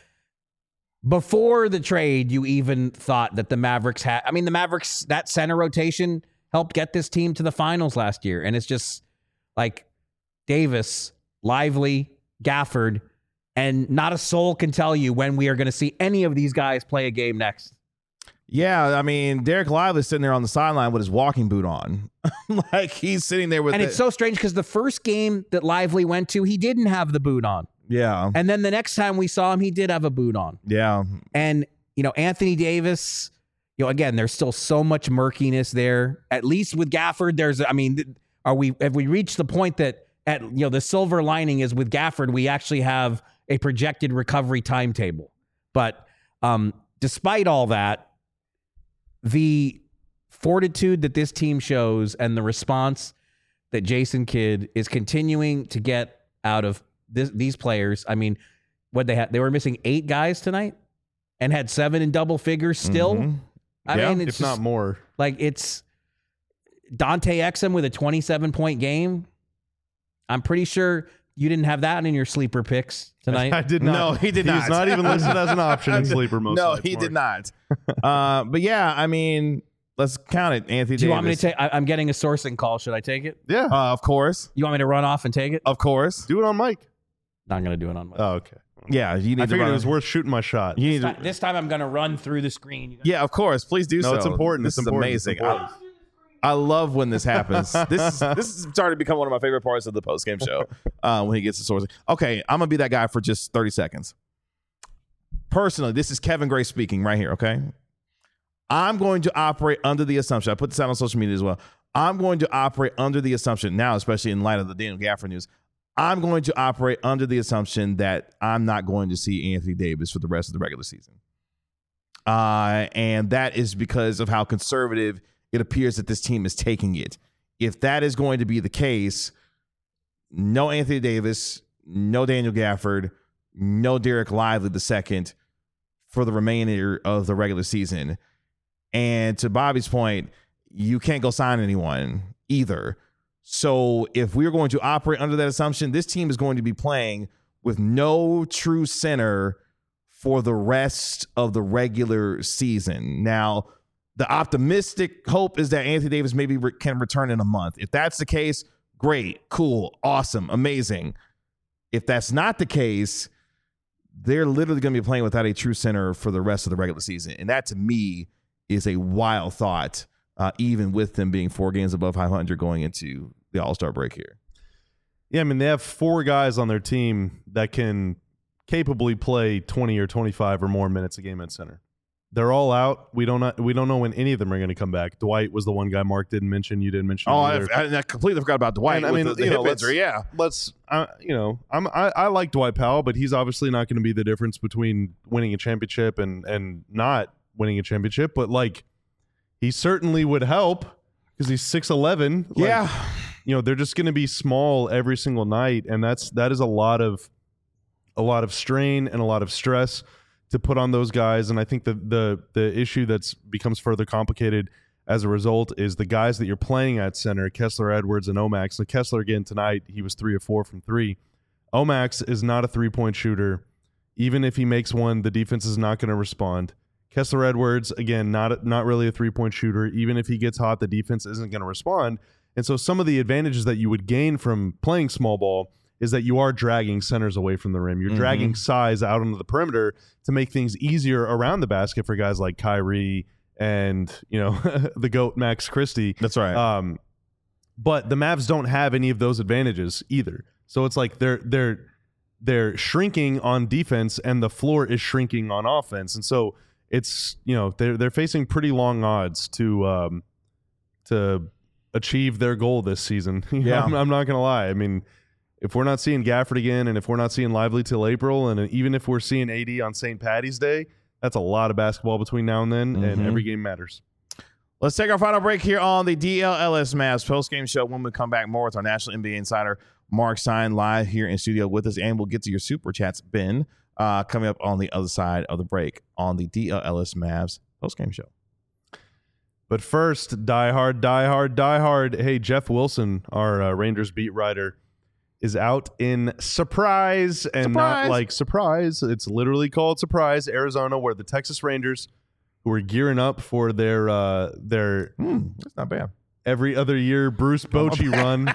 Before the trade, you even thought that the Mavericks had. I mean, the Mavericks, that center rotation helped get this team to the finals last year. And it's just like Davis, Lively, Gafford, and not a soul can tell you when we are going to see any of these guys play a game next. Yeah, I mean, Derek Lively's sitting there on the sideline with his walking boot on. Like he's sitting there with And it. it's so strange because the first game that Lively went to, he didn't have the boot on. Yeah. And then the next time we saw him, he did have a boot on. Yeah. And, you know, Anthony Davis, you know, again, there's still so much murkiness there. At least with Gafford, there's, I mean, are we, have we reached the point that at, you know, the silver lining is with Gafford, we actually have a projected recovery timetable. But um, despite all that, the fortitude that this team shows and the response that Jason Kidd is continuing to get out of this, these players. I mean, what they had, they were missing eight guys tonight and had seven in double figures still. Mhm. I Yeah, mean, it's if just, not more. like it's Dante Exum with a twenty-seven point game. I'm pretty sure you didn't have that in your sleeper picks tonight. I did not. No, he did He's not. not even listed as an option in sleeper most No, nights, he did Mark. not. uh, but yeah, I mean, let's count it. Anthony Do you Davis. want me to take? I- I'm getting a sourcing call. Should I take it? Yeah. Uh, of course. You want me to run off and take it? Of course. Do it on mic. Not going to do it on my. Oh, okay. Yeah, you need I to figured run. it was worth shooting my shot. you need This to, time, this time I'm going to run through the screen. You guys- yeah, of course. Please do No, so. it's important. This It's is important. It's amazing. important. I, I love when this happens. this is this is starting to become one of my favorite parts of the post game show. Uh, when he gets the source. Okay, I'm gonna be that guy for just thirty seconds. Personally, this is Kevin Gray speaking right here. Okay, I'm going to operate under the assumption. I put this out on social media as well. I'm going to operate under the assumption now, especially in light of the Daniel Gafford news. I'm going to operate under the assumption that I'm not going to see Anthony Davis for the rest of the regular season. Uh, and that is because of how conservative it appears that this team is taking it. If that is going to be the case, no Anthony Davis, no Daniel Gafford, no Derek Lively the second for the remainder of the regular season. And to Bobby's point, you can't go sign anyone either. So if we're going to operate under that assumption, this team is going to be playing with no true center for the rest of the regular season. Now, the optimistic hope is that Anthony Davis maybe re- can return in a month. If that's the case, great, cool, awesome, amazing. If that's not the case, they're literally going to be playing without a true center for the rest of the regular season. And that, to me, is a wild thought, uh, even with them being four games above five hundred going into the All-Star break here. Yeah, I mean, they have four guys on their team that can capably play twenty or twenty-five or more minutes a game at center. They're all out. We don't know, we don't know when any of them are going to come back. Dwight was the one guy Mark didn't mention. You didn't mention. Oh, him I, I, I completely forgot about Dwight. And, I with mean, the, the you hip know, let's- injury. Yeah, Let's, uh, you know, I'm, I, I like Dwight Powell, but he's obviously not going to be the difference between winning a championship and and not winning a championship. But like, he certainly would help because he's six eleven. Like, yeah. you know, they're just going to be small every single night, and that's that is a lot of a lot of strain and a lot of stress to put on those guys. And I think the the the issue that's becomes further complicated as a result is the guys that you're playing at center, Kessler, Edwards, and Omax. So Kessler again tonight, he was three of four from three. Omax is not a three-point shooter. Even if he makes one, the defense is not going to respond. Kessler Edwards, again, not not really a three-point shooter. Even if he gets hot, the defense isn't going to respond. And so some of the advantages that you would gain from playing small ball is that you are dragging centers away from the rim. You're mm-hmm. dragging size out onto the perimeter to make things easier around the basket for guys like Kyrie and, you know, the GOAT Max Christie. That's right. Um, but the Mavs don't have any of those advantages either. So it's like they're they're they're shrinking on defense and the floor is shrinking on offense. And so it's, you know, they're they're facing pretty long odds to um, to achieve their goal this season. Yeah, I'm, I'm not gonna lie. I mean, if we're not seeing Gafford again, and if we're not seeing Lively till April, and even if we're seeing A D on Saint Patty's Day, that's a lot of basketball between now and then, mm-hmm. and every game matters. Let's take our final break here on the D L L S Mavs postgame show. When we come back, more with our national N B A insider, Mark Stein, live here in studio with us, and we'll get to your super chats, Ben, uh, coming up on the other side of the break on the D L L S Mavs postgame show. But first, die hard, die hard, die hard. Hey, Jeff Wilson, our uh, Rangers beat writer, is out in Surprise, and surprise. Not like surprise. It's literally called Surprise, Arizona, where the Texas Rangers, who are gearing up for their uh, their mm, that's not bad every other year Bruce Bochy run,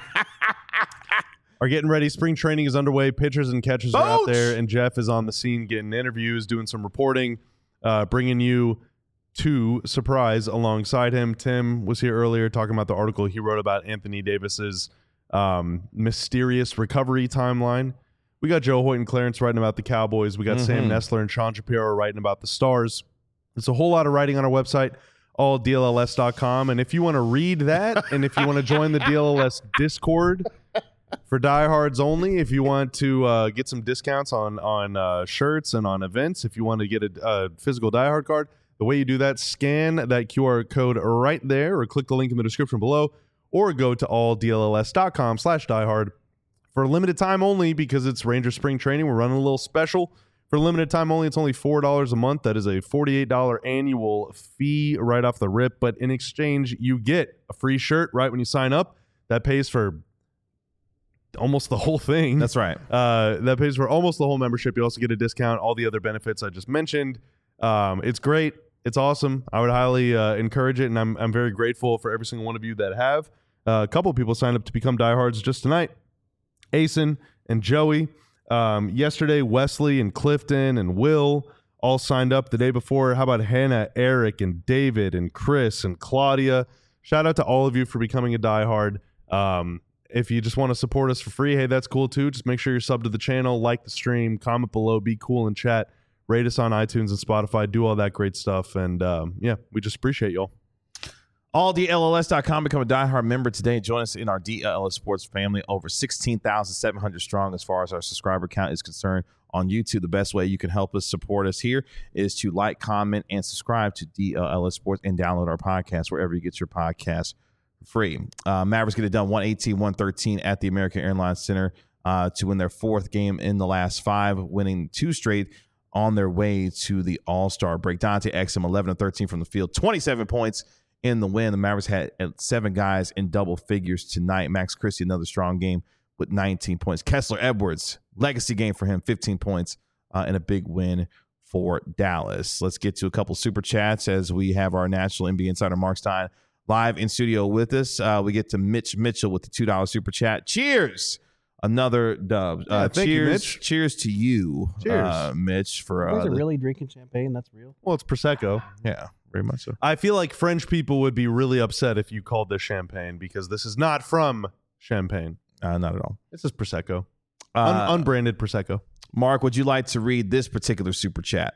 are getting ready. Spring training is underway. Pitchers and catchers Boch! are out there, and Jeff is on the scene getting interviews, doing some reporting, uh, bringing you to Surprise alongside him. Tim was here earlier talking about the article he wrote about Anthony Davis's um, mysterious recovery timeline. We got Joe Hoyt and Clarence writing about the Cowboys. We got mm-hmm. Sam Nestler and Sean Shapiro writing about the Stars. There's a whole lot of writing on our website, all D L L S dot com. And if you want to read that, and if you want to join the D L L S Discord for diehards only, if you want to uh, get some discounts on on uh, shirts and on events, if you want to get a, a physical diehard card, the way you do that, scan that Q R code right there, or click the link in the description below, or go to all D L L S dot com slash diehard. For a limited time only, because it's Ranger spring training, we're running a little special. For a limited time only, it's only four dollars a month. That is a forty-eight dollars annual fee right off the rip. But in exchange, you get a free shirt right when you sign up. That pays for almost the whole thing. That's right. Uh, that pays for almost the whole membership. You also get a discount, all the other benefits I just mentioned. Um, it's great. It's awesome. I would highly uh, encourage it, and I'm I'm very grateful for every single one of you that have. Uh, a couple of people signed up to become diehards just tonight. Asen and Joey. Um, yesterday, Wesley and Clifton and Will all signed up. The day before, how about Hannah, Eric, and David, and Chris, and Claudia? Shout out to all of you for becoming a diehard. Um, if you just want to support us for free, hey, that's cool too. Just make sure you're subbed to the channel, like the stream, comment below, be cool in chat, rate us on iTunes and Spotify, do all that great stuff. And um, yeah, we just appreciate y'all. all D L L S dot com. Become a diehard member today. Join us in our D L L S Sports family. Over sixteen thousand seven hundred strong as far as our subscriber count is concerned on YouTube. The best way you can help us support us here is to like, comment, and subscribe to D L L S Sports and download our podcast wherever you get your podcast for free. Uh, Mavericks get it done one eighteen one thirteen at the American Airlines Center uh, to win their fourth game in the last five, winning two straight on their way to the All-Star break. Dante Exum, eleven of thirteen from the field, twenty-seven points in the win. The Mavericks had seven guys in double figures tonight. Max Christie, another strong game with nineteen points. Kessler Edwards, legacy game for him, fifteen points, uh, and a big win for Dallas. Let's get to a couple super chats as we have our national N B A insider Mark Stein live in studio with us. Uh, we get to Mitch Mitchell with the two dollars super chat. Cheers! Another dub. Uh, yeah, thank cheers, you, Mitch. Cheers to you, cheers. Uh, Mitch. For You guys uh, are the, really drinking champagne? That's real? Well, it's Prosecco. yeah, very much so. I feel like French people would be really upset if you called this champagne, because this is not from Champagne. Uh, not at all. This is Prosecco. Uh, Un- unbranded Prosecco. Mark, would you like to read this particular super chat?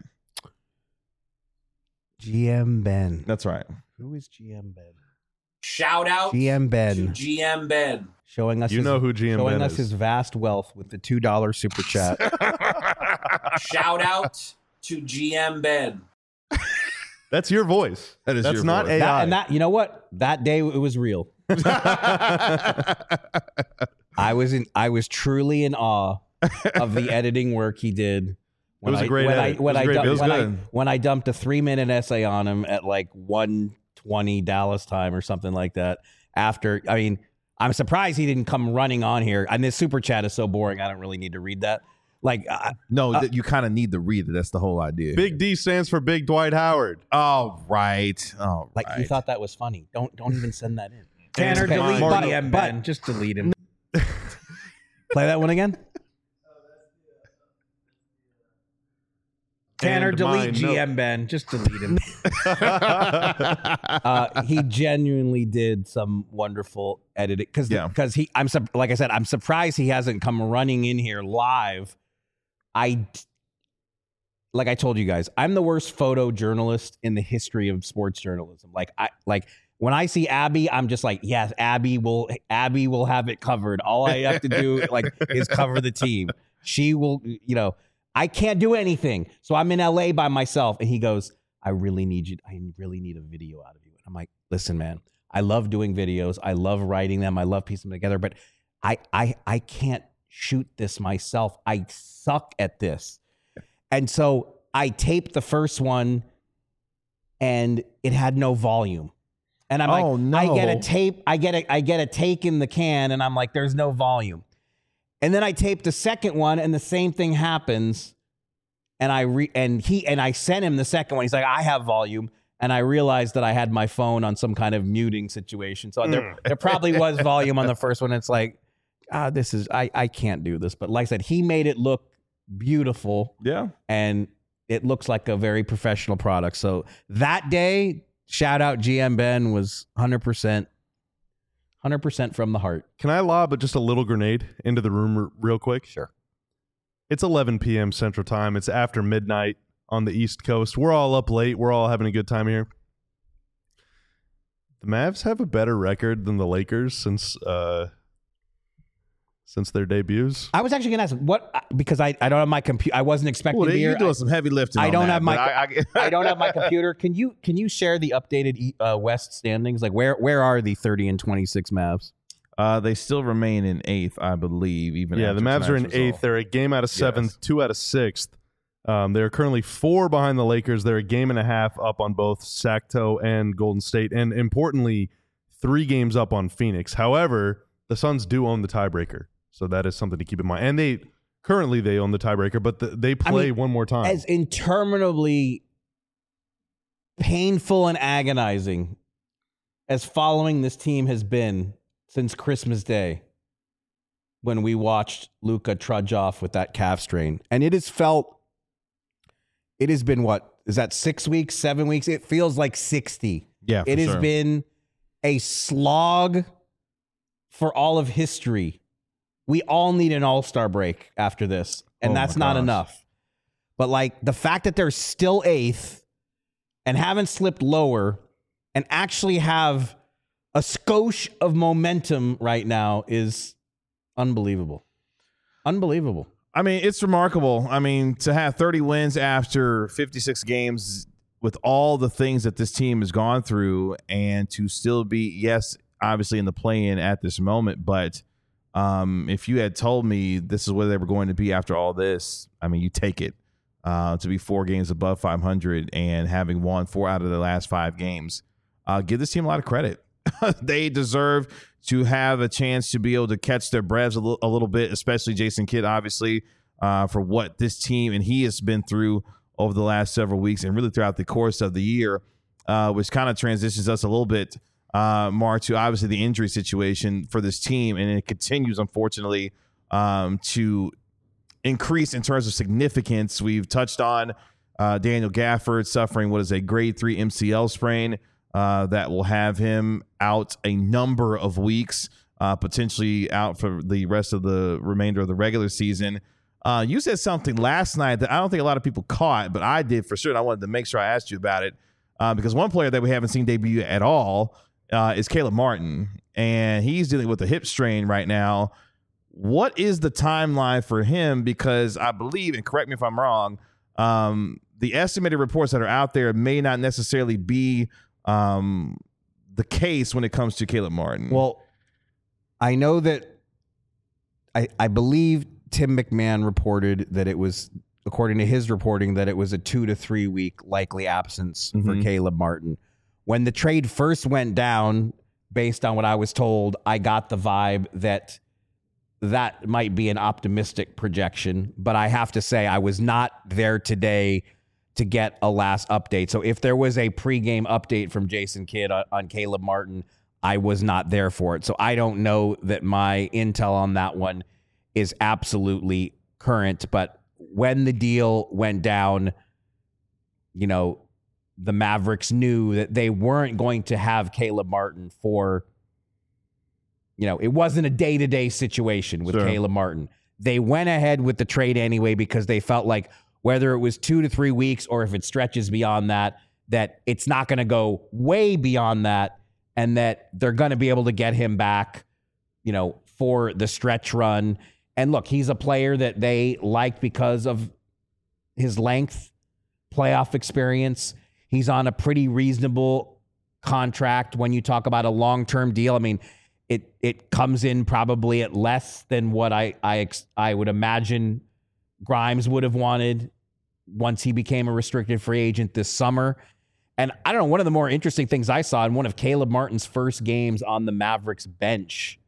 G M Ben. That's right. Who is G M Ben? Shout out G M Ben. to G M Ben. Showing us You his, know who G M showing Ben us is. his vast wealth with the two dollars super chat. Shout out to G M Ben. That's your voice. That is That's your not voice. A I. That, and that, you know what? That day it was real. I was in. I was truly in awe of the editing work he did. When was a I, great when edit. I when It was I great. dumped, It was when, I, good. when I dumped a three minute essay on him at like one twenty Dallas time or something like that. After, I mean, I'm surprised he didn't come running on here. And this super chat is so boring. I don't really need to read that. Like, uh, No, Uh, th- you kind of need to read it. That's the whole idea. Big D stands for Big Dwight Howard. Oh, right. Oh, like right. he thought that was funny. Don't don't even send that in. Tanner, Okay, delete Mark- G M Ben. Just delete him. Play that one again. Tanner, And delete mine, G M Ben. Just delete him. uh, he genuinely did some wonderful editing because Yeah. because he I'm sup- like I said I'm surprised he hasn't come running in here live. I like I told you guys I'm the worst photojournalist in the history of sports journalism. Like I like when I see Abby, I'm just like, yes, Abby will Abby will have it covered. All I have to do like is cover the team. She will, you know. I can't do anything. So I'm in L A by myself. And he goes, I really need you. I really need a video out of you. And I'm like, listen, man, I love doing videos. I love writing them. I love piecing them together, but I, I, I can't shoot this myself. I suck at this. And so I taped the first one and it had no volume. And I'm Oh, like, no. I get a tape. I get a, I get a take in the can and I'm like, there's no volume. And then I taped the second one, and the same thing happens. And I re- and he and I sent him the second one. He's like, I have volume, and I realized that I had my phone on some kind of muting situation. So there, there probably was volume on the first one. It's like, ah, this is I I can't do this. But like I said, he made it look beautiful, Yeah. and it looks like a very professional product. So that day, shout out G M Ben was one hundred percent. one hundred percent from the heart. Can I lob just a little grenade into the room r- real quick? Sure. It's eleven p.m. Central Time. It's after midnight on the East Coast. We're all up late. We're all having a good time here. The Mavs have a better record than the Lakers since uh, since their debuts. I was actually going to ask what because I, I don't have my computer. I wasn't expecting Well, to be you're here. doing I, some heavy lifting. I on don't that, have my- but I, I, I don't have my computer. Can you can you share the updated uh, West standings? Like where where are the thirty and twenty-six Mavs? Uh, they still remain in eighth, I believe. Even Yeah, after the Mavs are in tonight's eighth. result. They're a game out of seventh, Yes. two out of sixth. Um, they're currently four behind the Lakers. They're a game and a half up on both Sacto and Golden State, and importantly, three games up on Phoenix. However, the Suns do own the tiebreaker, so that is something to keep in mind. And they currently they own the tiebreaker, but the, they play mean, one more time. As interminably painful and agonizing as following this team has been since Christmas Day, when we watched Luka trudge off with that calf strain, and it has felt. It has been what is that six weeks, seven weeks? It feels like sixty. Yeah, for It has sure. been a slog for all of history. We all need an all-star break after this, and Oh that's my not gosh. enough. But like the fact that they're still eighth and haven't slipped lower and actually have a skosh of momentum right now is unbelievable. Unbelievable. I mean, it's remarkable. I mean, to have thirty wins after fifty-six games with all the things that this team has gone through and to still be, yes, obviously in the play-in at this moment, but um, if you had told me this is where they were going to be after all this, I mean, you take it. Uh, to be four games above five hundred and having won four out of the last five games, uh, give this team a lot of credit. They deserve to have a chance to be able to catch their breaths a little, a little bit, especially Jason Kidd, obviously, uh, for what this team and he has been through over the last several weeks and really throughout the course of the year, uh, which kind of transitions us a little bit, uh, Mark, to obviously the injury situation for this team. And it continues, unfortunately, um, to increase in terms of significance. We've touched on uh, Daniel Gafford suffering what is a grade three M C L sprain. Uh, that will have him out a number of weeks, uh, potentially out for the rest of the remainder of the regular season. Uh, you said something last night that I don't think a lot of people caught, but I did for sure. And I wanted to make sure I asked you about it uh, because one player that we haven't seen debut at all uh, is Caleb Martin, and he's dealing with a hip strain right now. What is the timeline for him? Because I believe, and correct me if I'm wrong, um, the estimated reports that are out there may not necessarily be um, the case when it comes to Caleb Martin. Well, I know that I, I believe Tim McMahon reported that it was, according to his reporting, that it was a two to three week likely absence for Mhm. Caleb Martin. When the trade first went down, based on what I was told, I got the vibe that that might be an optimistic projection, but I have to say I was not there today to get a last update. So if there was a pregame update from Jason Kidd on, on Caleb Martin, I was not there for it. So I don't know that my intel on that one is absolutely current. But when the deal went down, you know, the Mavericks knew that they weren't going to have Caleb Martin for, you know, it wasn't a day-to-day situation with Sure. Caleb Martin. They went ahead with the trade anyway because they felt like whether it was two to three weeks or if it stretches beyond that, that it's not going to go way beyond that and that they're going to be able to get him back, you know, for the stretch run. And look, he's a player that they liked because of his length, playoff experience. He's on a pretty reasonable contract when you talk about a long-term deal. I mean, it it comes in probably at less than what I I ex- I would imagine Grimes would have wanted once he became a restricted free agent this summer. And I don't know, one of the more interesting things I saw in one of Caleb Martin's first games on the Mavericks bench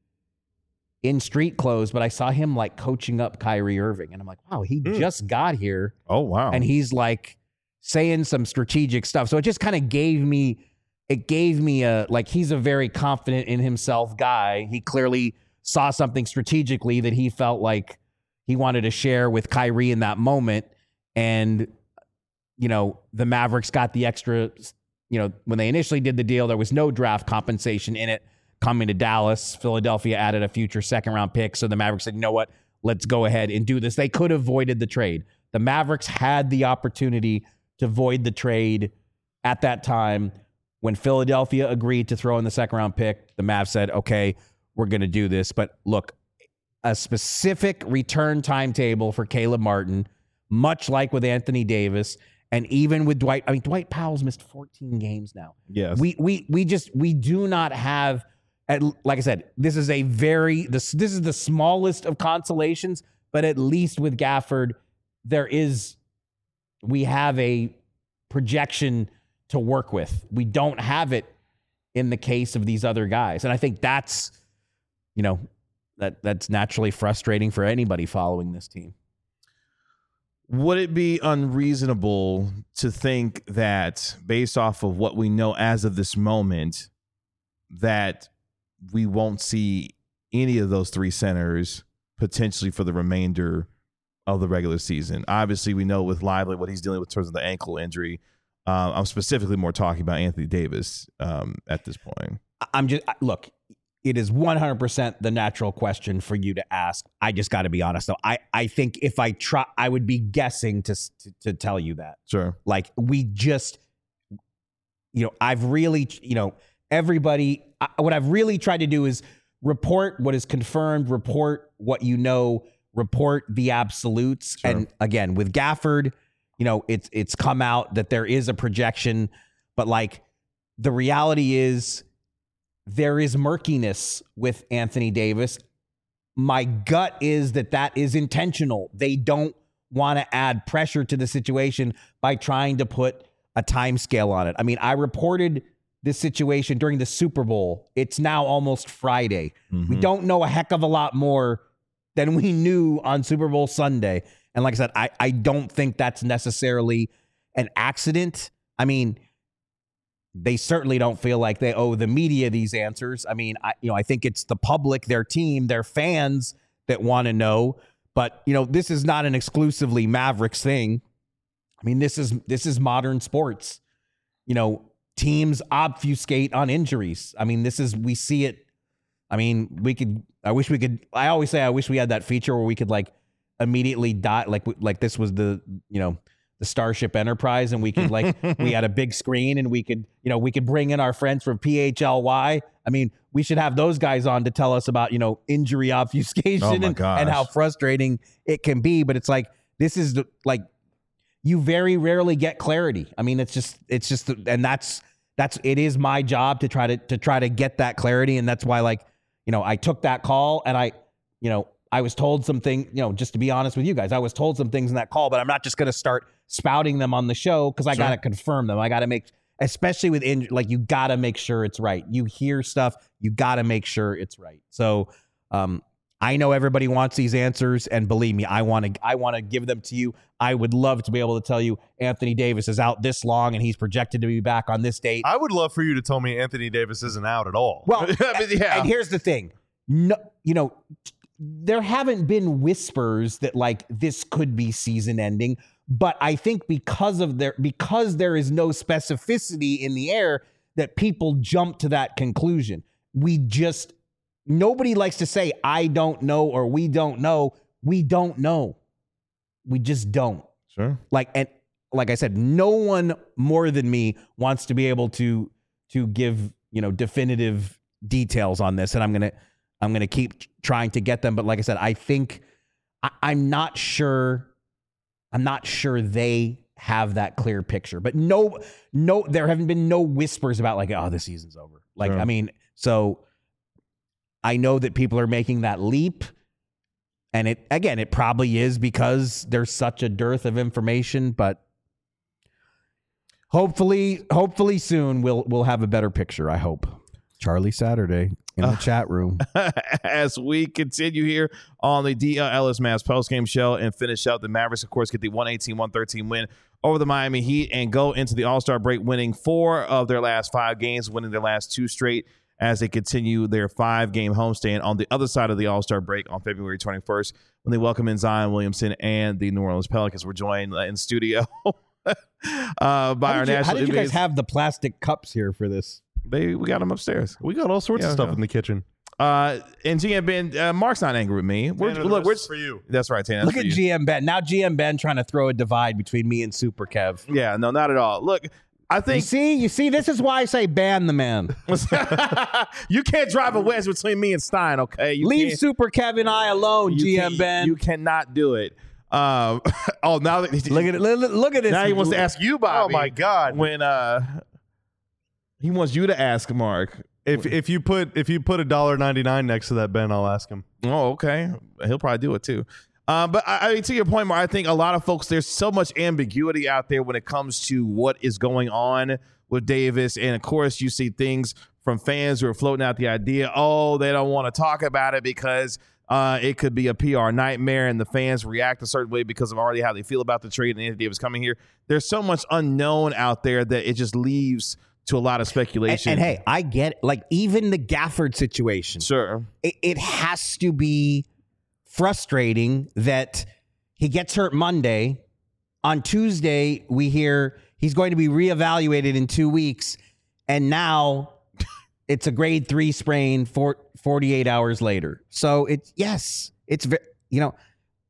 in street clothes, but I saw him like coaching up Kyrie Irving. And I'm like, wow, he Mm. just got here. Oh, wow. And he's like saying some strategic stuff. So it just kind of gave me, it gave me a, like, he's a very confident in himself guy. He clearly saw something strategically that he felt like he wanted to share with Kyrie in that moment. And, you know, the Mavericks got the extra, you know, when they initially did the deal, there was no draft compensation in it coming to Dallas. Philadelphia added a future second round pick. So the Mavericks said, you know what, let's go ahead and do this. They could have voided the trade. The Mavericks had the opportunity to void the trade at that time. When Philadelphia agreed to throw in the second round pick, the Mavs said, okay, we're going to do this. But look, a specific return timetable for Caleb Martin, much like with Anthony Davis, and even with Dwight. I mean, Dwight Powell's missed fourteen games now. Yes. We we we just we do not have, at, like I said, this is a very this this is the smallest of consolations, but at least with Gafford, there is we have a projection to work with. We don't have it in the case of these other guys. And I think that's, you know, that that's naturally frustrating for anybody following this team. Would it be unreasonable to think that based off of what we know as of this moment, that we won't see any of those three centers potentially for the remainder of the regular season? Obviously, we know with Lively what he's dealing with in terms of the ankle injury. Uh, I'm specifically more talking about Anthony Davis um, at this point. I'm just, look, it is one hundred percent the natural question for you to ask. I just got to be honest, though. I, I think if I try, I would be guessing to, to to tell you that. Sure. Like, we just, you know, I've really, you know, everybody, I, what I've really tried to do is report what is confirmed, report what you know, report the absolutes. Sure. And again, with Gafford, you know, it's it's come out that there is a projection, but like the reality is there is murkiness with Anthony Davis. My gut is that that is intentional. They don't want to add pressure to the situation by trying to put a time scale on it. I mean, I reported this situation during the Super Bowl. It's now almost Friday. Mm-hmm. We don't know a heck of a lot more than we knew on Super Bowl Sunday. And like I said, I, I don't think that's necessarily an accident. I mean, they certainly don't feel like they owe the media these answers. I mean, I, you know, I think it's the public, their team, their fans that want to know. But, you know, this is not an exclusively Mavericks thing. I mean, this is this is modern sports. You know, teams obfuscate on injuries. I mean, this is, we see it. I mean, we could, I wish we could, I always say, I wish we had that feature where we could like immediately dot, like, like this was the, you know, the Starship Enterprise, and we could like, we had a big screen and we could, you know, we could bring in our friends from P H L Y. I mean, we should have those guys on to tell us about, you know, injury obfuscation Oh my and, gosh. and how frustrating it can be. But it's like, this is the, like, you very rarely get clarity. I mean, it's just, it's just, and that's, that's, it is my job to try to, to try to get that clarity. And that's why, like, you know, I took that call and I, you know, I was told something, you know, just to be honest with you guys, I was told some things in that call, but I'm not just going to start spouting them on the show because I Sure. got to confirm them. I got to make, especially with injury, like you got to make sure it's right. You hear stuff, you got to make sure it's right. So um, I know everybody wants these answers, and believe me, I want to I want to give them to you. I would love to be able to tell you Anthony Davis is out this long and he's projected to be back on this date. I would love for you to tell me Anthony Davis isn't out at all. Well, I mean, yeah. and here's the thing. No, you know, there haven't been whispers that like this could be season ending, but I think because of there because there is no specificity in the air that people jump to that conclusion. We just Nobody likes to say, I don't know, or we don't know. We don't know. We just don't. Sure. Like, and like I said, no one more than me wants to be able to, to give, you know, definitive details on this. And I'm going to, I'm going to keep trying to get them. But like I said, I think I, I'm not sure. I'm not sure they have that clear picture, but no, no, there haven't been no whispers about like, oh, the season's over. Like, Sure. I mean, so I know that people are making that leap, and it again, it probably is because there's such a dearth of information, but hopefully, hopefully soon we'll we'll have a better picture, I hope. Charlie Saturday in the uh, chat room. As we continue here on the D L Ellis Mavs postgame show and finish up, the Mavericks, of course, get the one eighteen one thirteen win over the Miami Heat and go into the All-Star break winning four of their last five games, winning their last two straight as they continue their five-game homestand on the other side of the All-Star break on February twenty-first when they welcome in Zion Williamson and the New Orleans Pelicans. We're joined in studio uh, by how our did you, national. How did you guys have the plastic cups here for this? They we got them upstairs. We got all sorts Yeah, of stuff yeah. in the kitchen. Uh, and G M Ben, uh, Mark's not angry with me. We're, Tanner, look, this we're is for you. That's right, Tanner. Look That's at for you. G M Ben. Now G M Ben trying to throw a divide between me and Super Kev. Yeah, no, not at all. Look, I You think see, you see, this is why I say ban the man. you can't drive a wedge between me and Stein. Okay, you Leave can't- Super Kev and I alone, you G M can't- Ben. You cannot do it. Um, oh, now that look at it. Look, look at this. now he wants to ask you, Bobby. Oh my God! When uh, he wants you to ask Mark. If if you put if you put a dollar ninety nine next to that, Ben, I'll ask him. Oh, okay. He'll probably do it too. Uh, but I, I mean, to your point, Mark, I think a lot of folks, there's so much ambiguity out there when it comes to what is going on with Davis. And of course, you see things from fans who are floating out the idea, oh, they don't want to talk about it because uh, it could be a P R nightmare and the fans react a certain way because of already how they feel about the trade and Anthony Davis coming here. There's so much unknown out there that it just leaves to a lot of And, speculation. and hey, I get it. Like even the Gafford situation. Sure. It, it has to be frustrating that he gets hurt Monday. On Tuesday, we hear he's going to be reevaluated in two weeks. And now it's a grade three sprain for forty-eight hours later. So it's, yes, it's, ve- you know,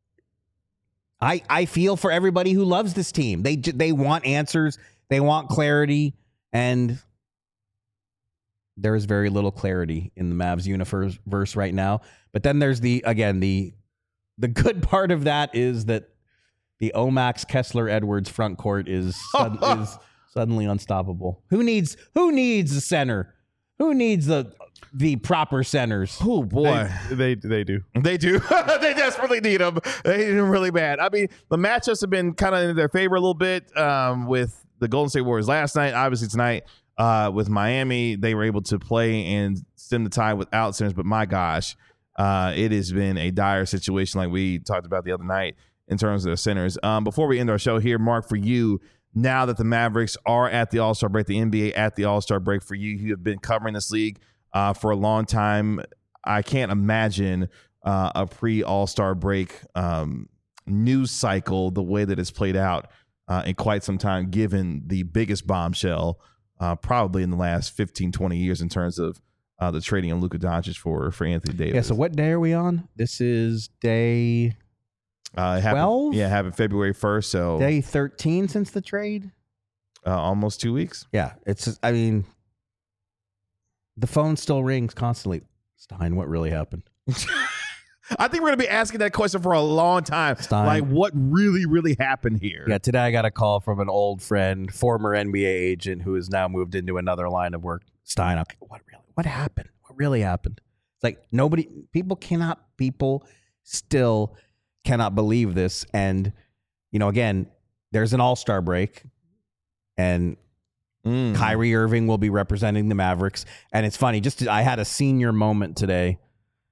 I I feel for everybody who loves this team. They j- they want answers. They want clarity. And there is very little clarity in the Mavs universe right now. But then there's the, again, the the good part of that is that the Omax Kessler Edwards front court is sud- is suddenly unstoppable. Who needs who needs a center? Who needs the the proper centers? Oh boy. They, they they do. They do. They desperately need them. They need them really bad. I mean, the matchups have been kind of in their favor a little bit um, with the Golden State Warriors last night. Obviously tonight uh, with Miami, they were able to play and stem the tide without centers. But my gosh, uh, it has been a dire situation like we talked about the other night in terms of the centers. Um, before we end our show here, Mark, for you, now that the Mavericks are at the All-Star break, the N B A at the All-Star break, for you, you have been covering this league uh, for a long time. I can't imagine uh, a pre-All-Star break um, news cycle the way that it's played out uh, in quite some time, given the biggest bombshell uh, probably in the last fifteen, twenty years in terms of uh, the trading of Luka Doncic for, for Anthony Davis. Yeah, so what day are we on? This is day Uh, it happened, twelve? Yeah, happened February first, so day thirteen since the trade. uh, almost two weeks. Yeah, it's just, I mean, the phone still rings constantly. Stein, what really happened? I think we're going to be asking that question for a long time. Stein. Like, what really, really happened here? Yeah, today I got a call from an old friend, former N B A agent who has now moved into another line of work. Stein, okay, what really, what happened? What really happened? It's like nobody, people cannot, people still cannot believe this. And, you know, again, there's an all-star break and Mm. Kyrie Irving will be representing the Mavericks. And it's funny, just I had a senior moment today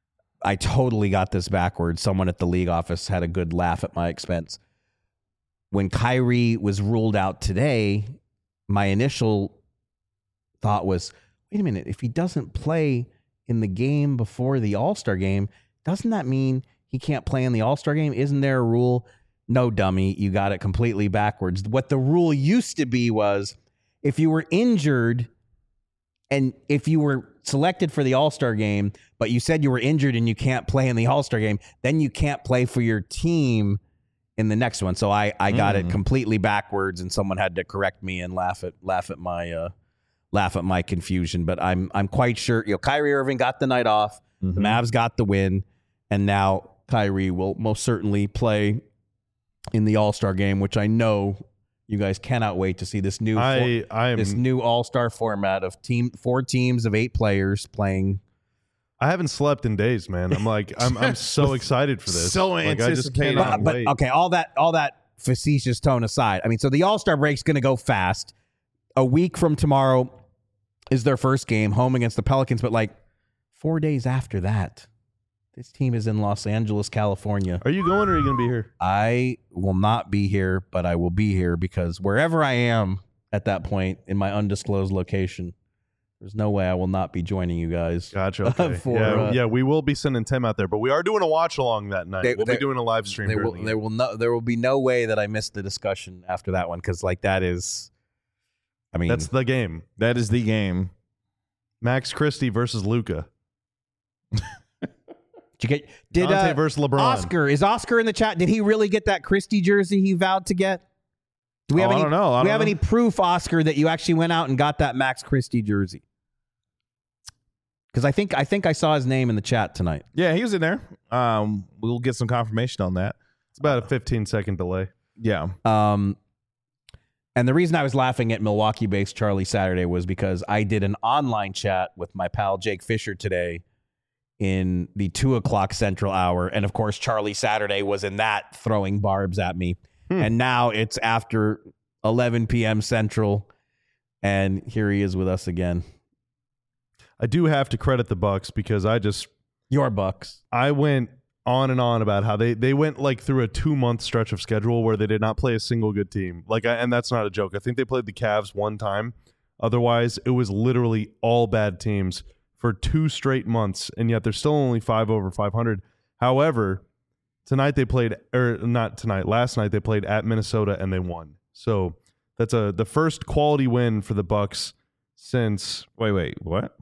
I totally got this backwards. Someone at the league office had a good laugh at my expense. When Kyrie was ruled out today, my initial thought was, wait a minute, if he doesn't play in the game before the All-Star game, doesn't that mean he can't play in the All-Star game? Isn't there a rule? No, dummy, you got it completely backwards. What the rule used to be was if you were injured and if you were selected for the All-Star game, but you said you were injured and you can't play in the All-Star game, then you can't play for your team in the next one. So I, I got mm. it completely backwards, and someone had to correct me and laugh at laugh at my uh, laugh at my confusion. But I'm I'm quite sure, you know, Kyrie Irving got the night off, mm-hmm. the Mavs got the win, and now Kyrie will most certainly play in the All-Star game, which I know you guys cannot wait to see this new I, for, I am, this new All-Star format of team four teams of eight players playing. I haven't slept in days, man. I'm like, I'm I'm so excited for this. So like, I just anticipated. cannot But, wait. but okay, all that all that facetious tone aside, I mean, so the All-Star break's going to go fast. A week from tomorrow is their first game, home against the Pelicans. But like four days after that, this team is in Los Angeles, California. Are you going or are you going to be here? I will not be here, but I will be here because wherever I am at that point in my undisclosed location, there's no way I will not be joining you guys. Gotcha. Okay. For, yeah, uh, yeah, we will be sending Tim out there, but we are doing a watch along that night. They- we'll they- be doing a live stream. There during will, the game. there will no there will be no way that I miss the discussion after that one, because like that is, I mean, That's the game. That is the game. Max Christie versus Luca. did you get did Dante uh, versus LeBron. Oscar is Oscar in the chat? Did he really get that Christie jersey he vowed to get? Do we have Oh, I any? don't know. I do we don't have know. any proof, Oscar, that you actually went out and got that Max Christie jersey? Because I think I think I saw his name in the chat tonight. Yeah, he was in there. Um, we'll get some confirmation on that. It's about a fifteen second delay. Yeah. Um, and the reason I was laughing at Milwaukee-based Charlie Saturday was because I did an online chat with my pal Jake Fisher today in the two o'clock Central hour, and of course Charlie Saturday was in that throwing barbs at me. Hmm. And now it's after eleven p.m. Central, and here he is with us again. I do have to credit the Bucks because I just Your Bucks. I went on and on about how they they went like through a two month stretch of schedule where they did not play a single good team. Like, I, and that's not a joke. I think they played the Cavs one time. Otherwise, it was literally all bad teams for two straight months, and yet they're still only five over five hundred. However, tonight they played, or not tonight, last night they played at Minnesota and they won. So that's a the first quality win for the Bucks since Wait, wait, what?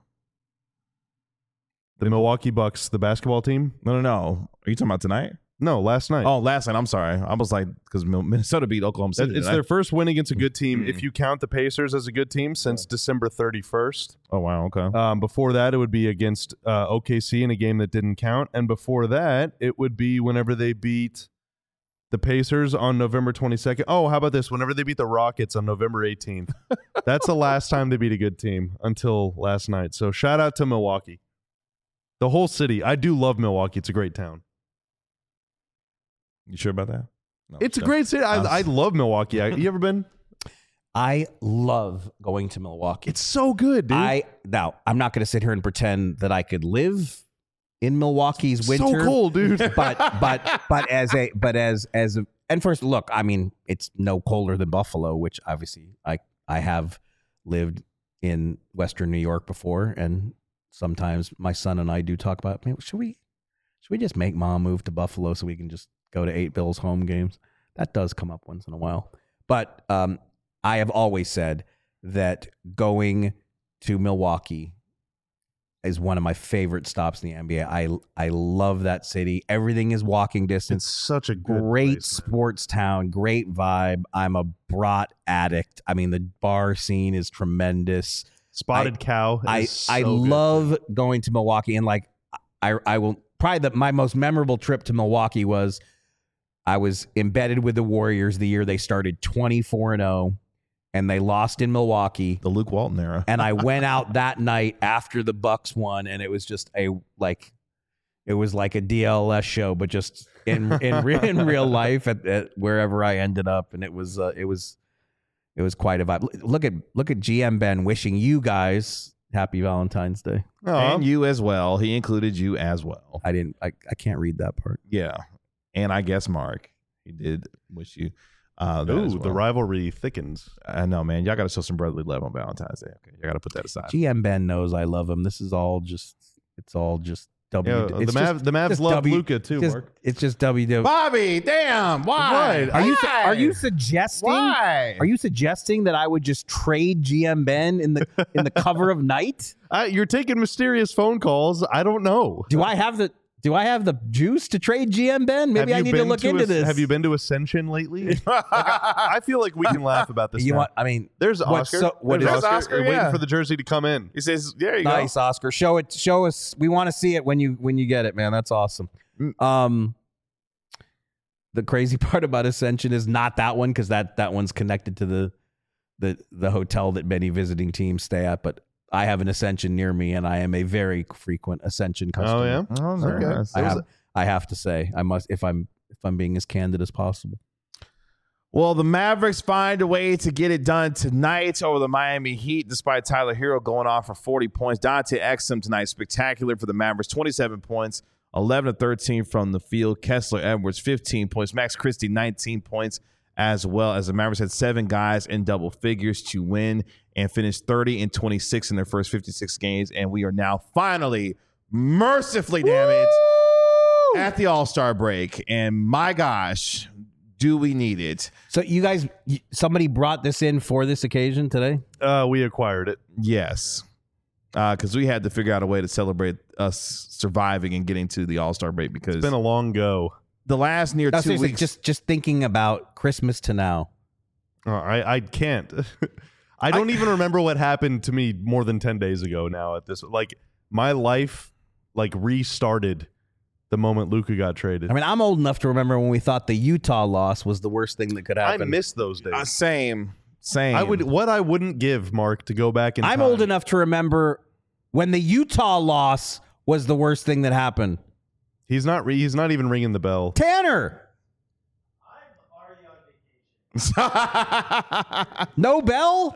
the Milwaukee Bucks, the basketball team. No, no, no. Are you talking about tonight? No, last night. Oh, last night. I'm sorry. I was like, because Minnesota beat Oklahoma City. It's tonight. their first win against a good team. Mm-hmm. If you count the Pacers as a good team since December thirty-first. Oh, wow. Okay. Um, before that, it would be against uh, O K C in a game that didn't count. And before that, it would be whenever they beat the Pacers on November twenty-second. Oh, how about this? Whenever they beat the Rockets on November eighteenth. That's the last time they beat a good team until last night. So shout out to Milwaukee. The whole city. I do love Milwaukee. It's a great town. You sure about that? No, It's a sure. great city. I, I love Milwaukee. I, you ever been? I love going to Milwaukee. It's so good, dude. I now I'm not going to sit here and pretend that I could live in Milwaukee's winter. So cool, dude. but but but as a but as as a, and first look, I mean, it's no colder than Buffalo, which obviously I I have lived in Western New York before, and sometimes my son and I do talk about, man, should we should we just make mom move to Buffalo so we can just go to eight Bills home games? That does come up once in a while. But um, I have always said that going to Milwaukee is one of my favorite stops in the N B A. I I love that city. Everything is walking distance. It's such a good Great place, man. sports town, great vibe. I'm a brat addict. I mean, the bar scene is tremendous. Spotted I- Cow. Is I so I good. love going to Milwaukee, and like I I will probably the, my most memorable trip to Milwaukee was I was embedded with the Warriors the year they started twenty-four and oh, and they lost in Milwaukee. The Luke Walton era. And I went out that night after the Bucks won, and it was just a like, it was like a D L S show, but just in in, re- in real life at, at wherever I ended up, and it was uh, it was it was quite a vibe. Look at look at G M Ben wishing you guys Happy Valentine's Day. Aw. And you as well. He included you as well. I didn't. I, I can't read that part. Yeah. And I guess Mark, he did wish you uh, that Ooh, as the well. rivalry thickens. I know, man. Y'all got to show some brotherly love on Valentine's Day. Okay, you got to put that aside. G M Ben knows I love him. This is all just. It's all just W. Yeah, it's the Mavs, just- the Mavs just love W- Luka too, just- Mark. It's just W W. Bobby, damn, why? Are you Why? are you suggesting? Why? Are you suggesting that I would just trade G M Ben in the in the cover of night? Uh, you're taking mysterious phone calls. I don't know. Do I have the Do I have the juice to trade G M Ben? Maybe Have I you need to been look into As- this. Have you been to Ascension lately? Like, I, I feel like we can laugh about this. You now. want? I mean, There's what's Oscar. so- what There's is- Oscar, Oscar, waiting yeah. for the jersey to come in. He says, there you nice, Oscar. Show it. Show us. We want to see it when you when you get it, man. That's awesome. Um, the crazy part about Ascension is not that one because that that one's connected to the the the hotel that many visiting teams stay at. But I have an Ascension near me, and I am a very frequent Ascension customer. Oh yeah. go. Oh, very Okay. nice. I have, I have to say, I must if I'm if I'm being as candid as possible. Well, the Mavericks find a way to get it done tonight over the Miami Heat, despite Tyler Hero going off for forty points. Dante Exum tonight, spectacular for the Mavericks, twenty-seven points, eleven of thirteen from the field. Kessler Edwards, fifteen points. Max Christie, nineteen points, as well as the Mavericks had seven guys in double figures to win and finish thirty and twenty-six in their first fifty-six games. And we are now finally, mercifully, damn it, at the All-Star break. And my gosh, do we need it? So you guys, y- somebody brought this in for this occasion today. Uh, we acquired it. Yes. Because we had to figure out a way to celebrate us surviving and getting to the All-Star break because It's been a long go. the last near No, two seriously, weeks. just just thinking about Christmas to now. Uh, I I can't. I don't even remember what happened to me more than ten days ago. Now at this, like my life, like restarted the moment Luka got traded. I mean, I'm old enough to remember when we thought the Utah loss was the worst thing that could I happen. miss those days. Uh, same. Same. I would what I wouldn't give Mark to go back in. I'm time. old enough to remember when the Utah loss was the worst thing that happened. He's not. Re, he's not even ringing the bell. Tanner, no bell.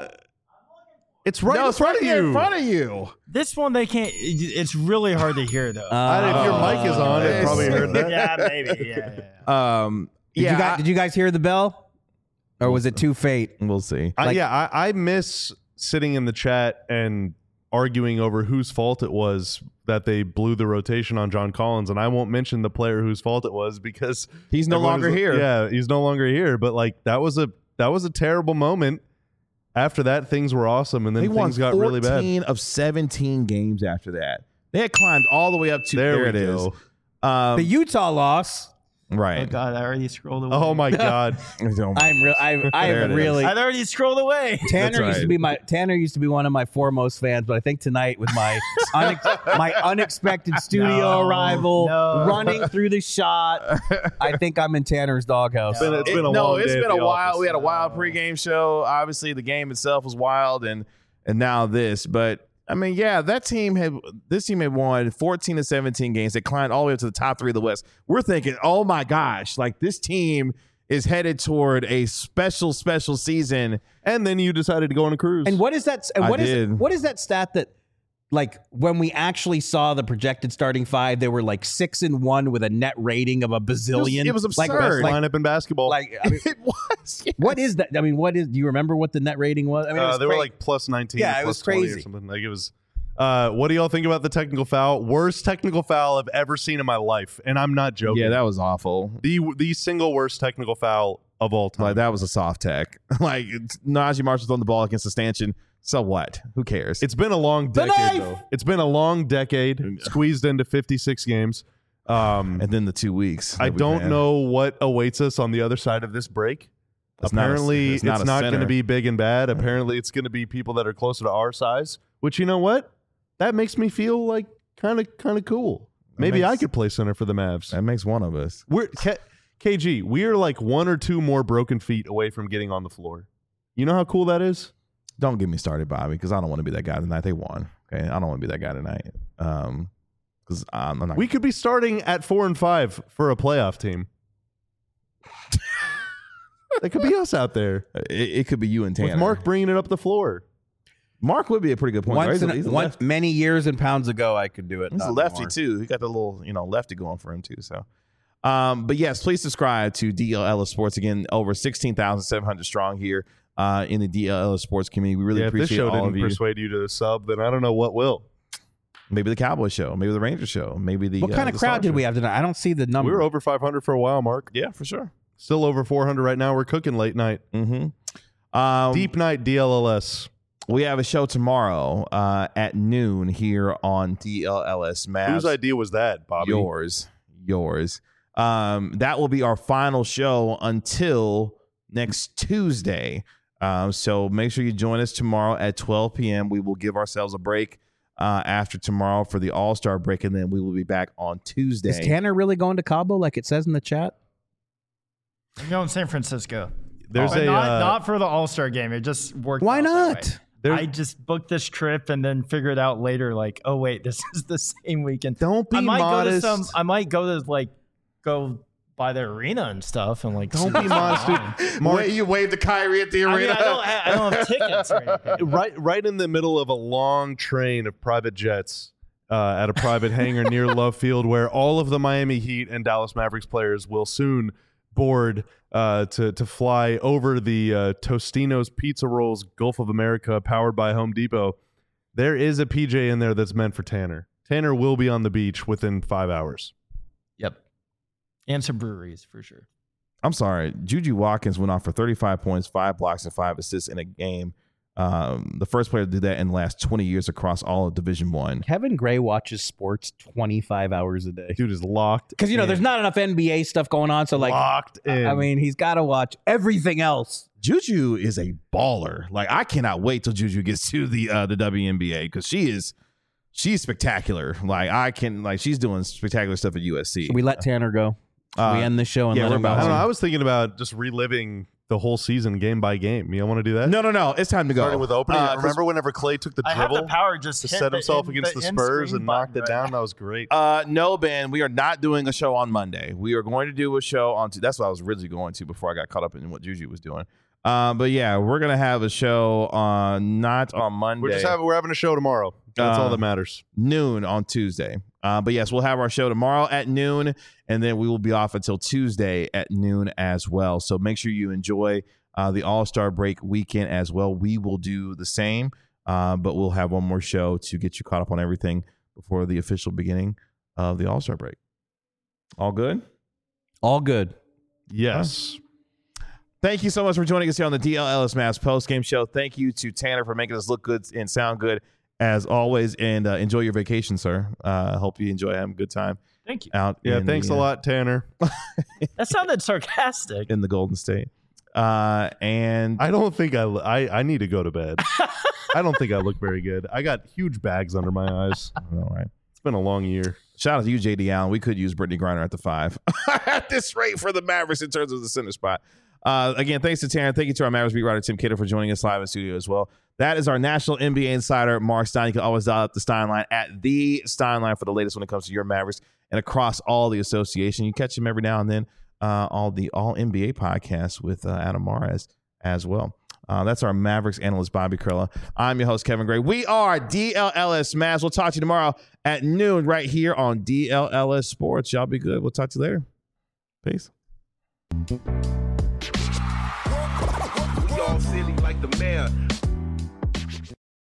It's right no, in it's front right of here you. in front of you. This one they can't. It's really hard to hear though. I- if your mic is on, it Uh, probably heard that. yeah, maybe. Yeah, yeah, yeah. Um, Did yeah, you guys, did you guys hear the bell, or was it too fate? I- we'll see. I, Like- yeah, I, I miss sitting in the chat and arguing over whose fault it was that they blew the rotation on John Collins, and I won't mention the player whose fault it was because He's no everyone longer is- here. Yeah, he's no longer here. But like that was a that was a terrible moment. After that, things were awesome, and then They won things got really bad. fourteen of seventeen games after that. They had climbed all the way up to There there, we it is. go. Um, The Utah loss. Oh right. God, I already scrolled away. Oh my god! I'm real. I I There am it is. really. I already scrolled away. Tanner That's used to right. be my Tanner used to be one of my foremost fans, but I think tonight with my unex- my unexpected studio No, arrival, no. running through the shot, I think I'm in Tanner's doghouse. It's been, it's been a It- no, long it's day been at a the while. office. We had a wild pregame show. Obviously, the game itself was wild, and and now this. But I mean, yeah, that team had this team had won fourteen to seventeen games. They climbed all the way up to the top three of the West. We're thinking, oh my gosh, like this team is headed toward a special, special season. And then you decided to go on a cruise. And what is that? And I what is did. what is that stat that, like, when we actually saw the projected starting five, they were like six and one with a net rating of a bazillion. It was- it was like, absurd. Like, lineup in basketball? like I mean, It was. yeah. what is that? I mean, what is? Do you remember what the net rating was? I mean, it uh, was they were cra- like plus nineteen. Yeah, or it plus was twenty crazy. or something. Like it was. Uh, what do y'all think about the technical foul? Worst technical foul I've ever seen in my life, and I'm not joking. Yeah, that was awful. the the single worst technical foul of all time. Like that was a soft tech. Like it's- Najee Marshall throwing the ball against the stanchion. So what? Who cares? It's been a long The decade, knife! though. It's been a long decade, squeezed into fifty-six games. Um, and then the two weeks. I that we've don't had. know what awaits us on the other side of this break. It's not a- Apparently, it's it's not not, a going to center. be big and bad. Apparently, it's going to be people that are closer to our size. Which, you know what? That makes me feel like kind of kind of cool. Maybe makes- I could play center for the Mavs. That makes one of us. We're K, KG. We are like one or two more broken feet away from getting on the floor. You know how cool that is? Don't get me started, Bobby, because I don't want to be that guy tonight. They won. Okay, I don't want to be that guy tonight. Um, because I'm, I'm not. We could be starting at four and five for a playoff team. That could be us out there it, it could be you and Tanner. with Mark bringing it up the floor. Mark would be a pretty good point guard. Once, He's a, in, he's a once lefty. many years and pounds ago, I could do it. He's a Not lefty anymore. too. He got the little, you know, lefty going for him too. So, um, but yes, please subscribe to D L L S Sports. Again, over sixteen thousand seven hundred strong here uh, in the D L L S Sports community. We really Yeah, if this appreciate show all didn't of you. persuade you to sub, then I don't know what will. Maybe the Cowboy show, maybe the Ranger show, maybe the. What uh, kind of the crowd Star did show. we have tonight? I don't see the number. We were over five hundred for a while, Mark. Yeah, for sure. Still over four hundred right now. We're cooking late night. Mm-hmm. Um, Deep night D L L S. We have a show tomorrow uh, at noon here on D L L S Mavs. Whose idea was that, Bobby? Yours, yours. Um, that will be our final show until next Tuesday. Um, so make sure you join us tomorrow at twelve p.m. We will give ourselves a break uh, after tomorrow for the All-Star break, and then we will be back on Tuesday. Is Tanner really going to Cabo like it says in the chat? I'm going San Francisco. There's But a not, uh, not for the All Star game. It just worked. Why out that not? way. There's- I just booked this trip and then figured out later, like, oh wait, this is the same weekend. Don't be I might modest. go to some. I might go to like go by the arena and stuff and like. Don't see be what's modest, going dude. on. Mark, Wait, you waved the Kyrie at the I arena. mean, I don't. Have, I don't have tickets or anything. right, right in the middle of a long train of private jets uh, at a private hangar near Love Field, where all of the Miami Heat and Dallas Mavericks players will soon board uh, to to fly over the uh, Tostino's Pizza Rolls Gulf of America, powered by Home Depot. There is a P J in there that's meant for Tanner. Tanner will be on the beach within five hours. Yep. And some breweries for sure. I'm sorry. Juju Watkins went off for thirty-five points, five blocks, and five assists in a game. Um, the first player to do that in the last twenty years across all of Division One. Kevin Gray watches sports twenty-five hours a day. Dude is locked Because, you know, in. there's not enough N B A stuff going on. So, like, locked in. I mean, he's got to watch everything else. Juju is a baller. Like, I cannot wait till Juju gets to the uh, the W N B A because she is she's spectacular. Like, I can like she's doing spectacular stuff at U S C. Should we let Tanner go? Should Uh, we end the show and yeah, let we're him go? about I don't know. to. I was thinking about just reliving the whole season game by game. You want to do that? No, no, no. It's time to go. Starting with opening. Uh, 'cause, Remember whenever Clay took the I have dribble the power just to hit set the himself in- against the, the Spurs in-screen and knocked it button down? right That was great. Uh, no, Ben. We are not doing a show on Monday. We are going to do a show on. T- that's what I was originally going to before I got caught up in what Juju was doing. Um, but yeah, we're gonna have a show on not on Monday. We're just having we're having a show tomorrow. That's Uh, all that matters. noon on Tuesday. Uh, but yes, we'll have our show tomorrow at noon, and then we will be off until Tuesday at noon as well. So make sure you enjoy uh, the All-Star break weekend as well. We will do the same, uh, but we'll have one more show to get you caught up on everything before the official beginning of the All-Star break. All good? All good. Yes. Thank you so much for joining us here on the D L L S Mavs post-game show. Thank you to Tanner for making us look good and sound good as always, and uh, enjoy your vacation, sir. Uh, hope you enjoy having a good time Thank you. out Yeah. in Thanks the, a uh, lot, Tanner. That sounded sarcastic. in the Golden State. Uh, and I don't think I, I I need to go to bed. I don't think I look very good. I got huge bags under my eyes. all right. It's been a long year. Shout out to you, J D Allen. We could use Brittany Griner at the five at this rate for the Mavericks in terms of the center spot. Uh, again, thanks to Taryn. Thank you to our Mavericks beat writer, Tim Kidder, for joining us live in studio as well. That is our national N B A insider, Mark Stein. You can always dial up the Stein line at the Stein line for the latest when it comes to your Mavericks and across all the association. You catch him every now and then uh, on the All N B A podcast with uh, Adam Mares as well. Uh, that's our Mavericks analyst, Bobby Curla. I'm your host, Kevin Gray. We are D L L S Mavs. We'll talk to you tomorrow at noon right here on D L L S Sports. Y'all be good. We'll talk to you later. Peace. We all silly like the mayor.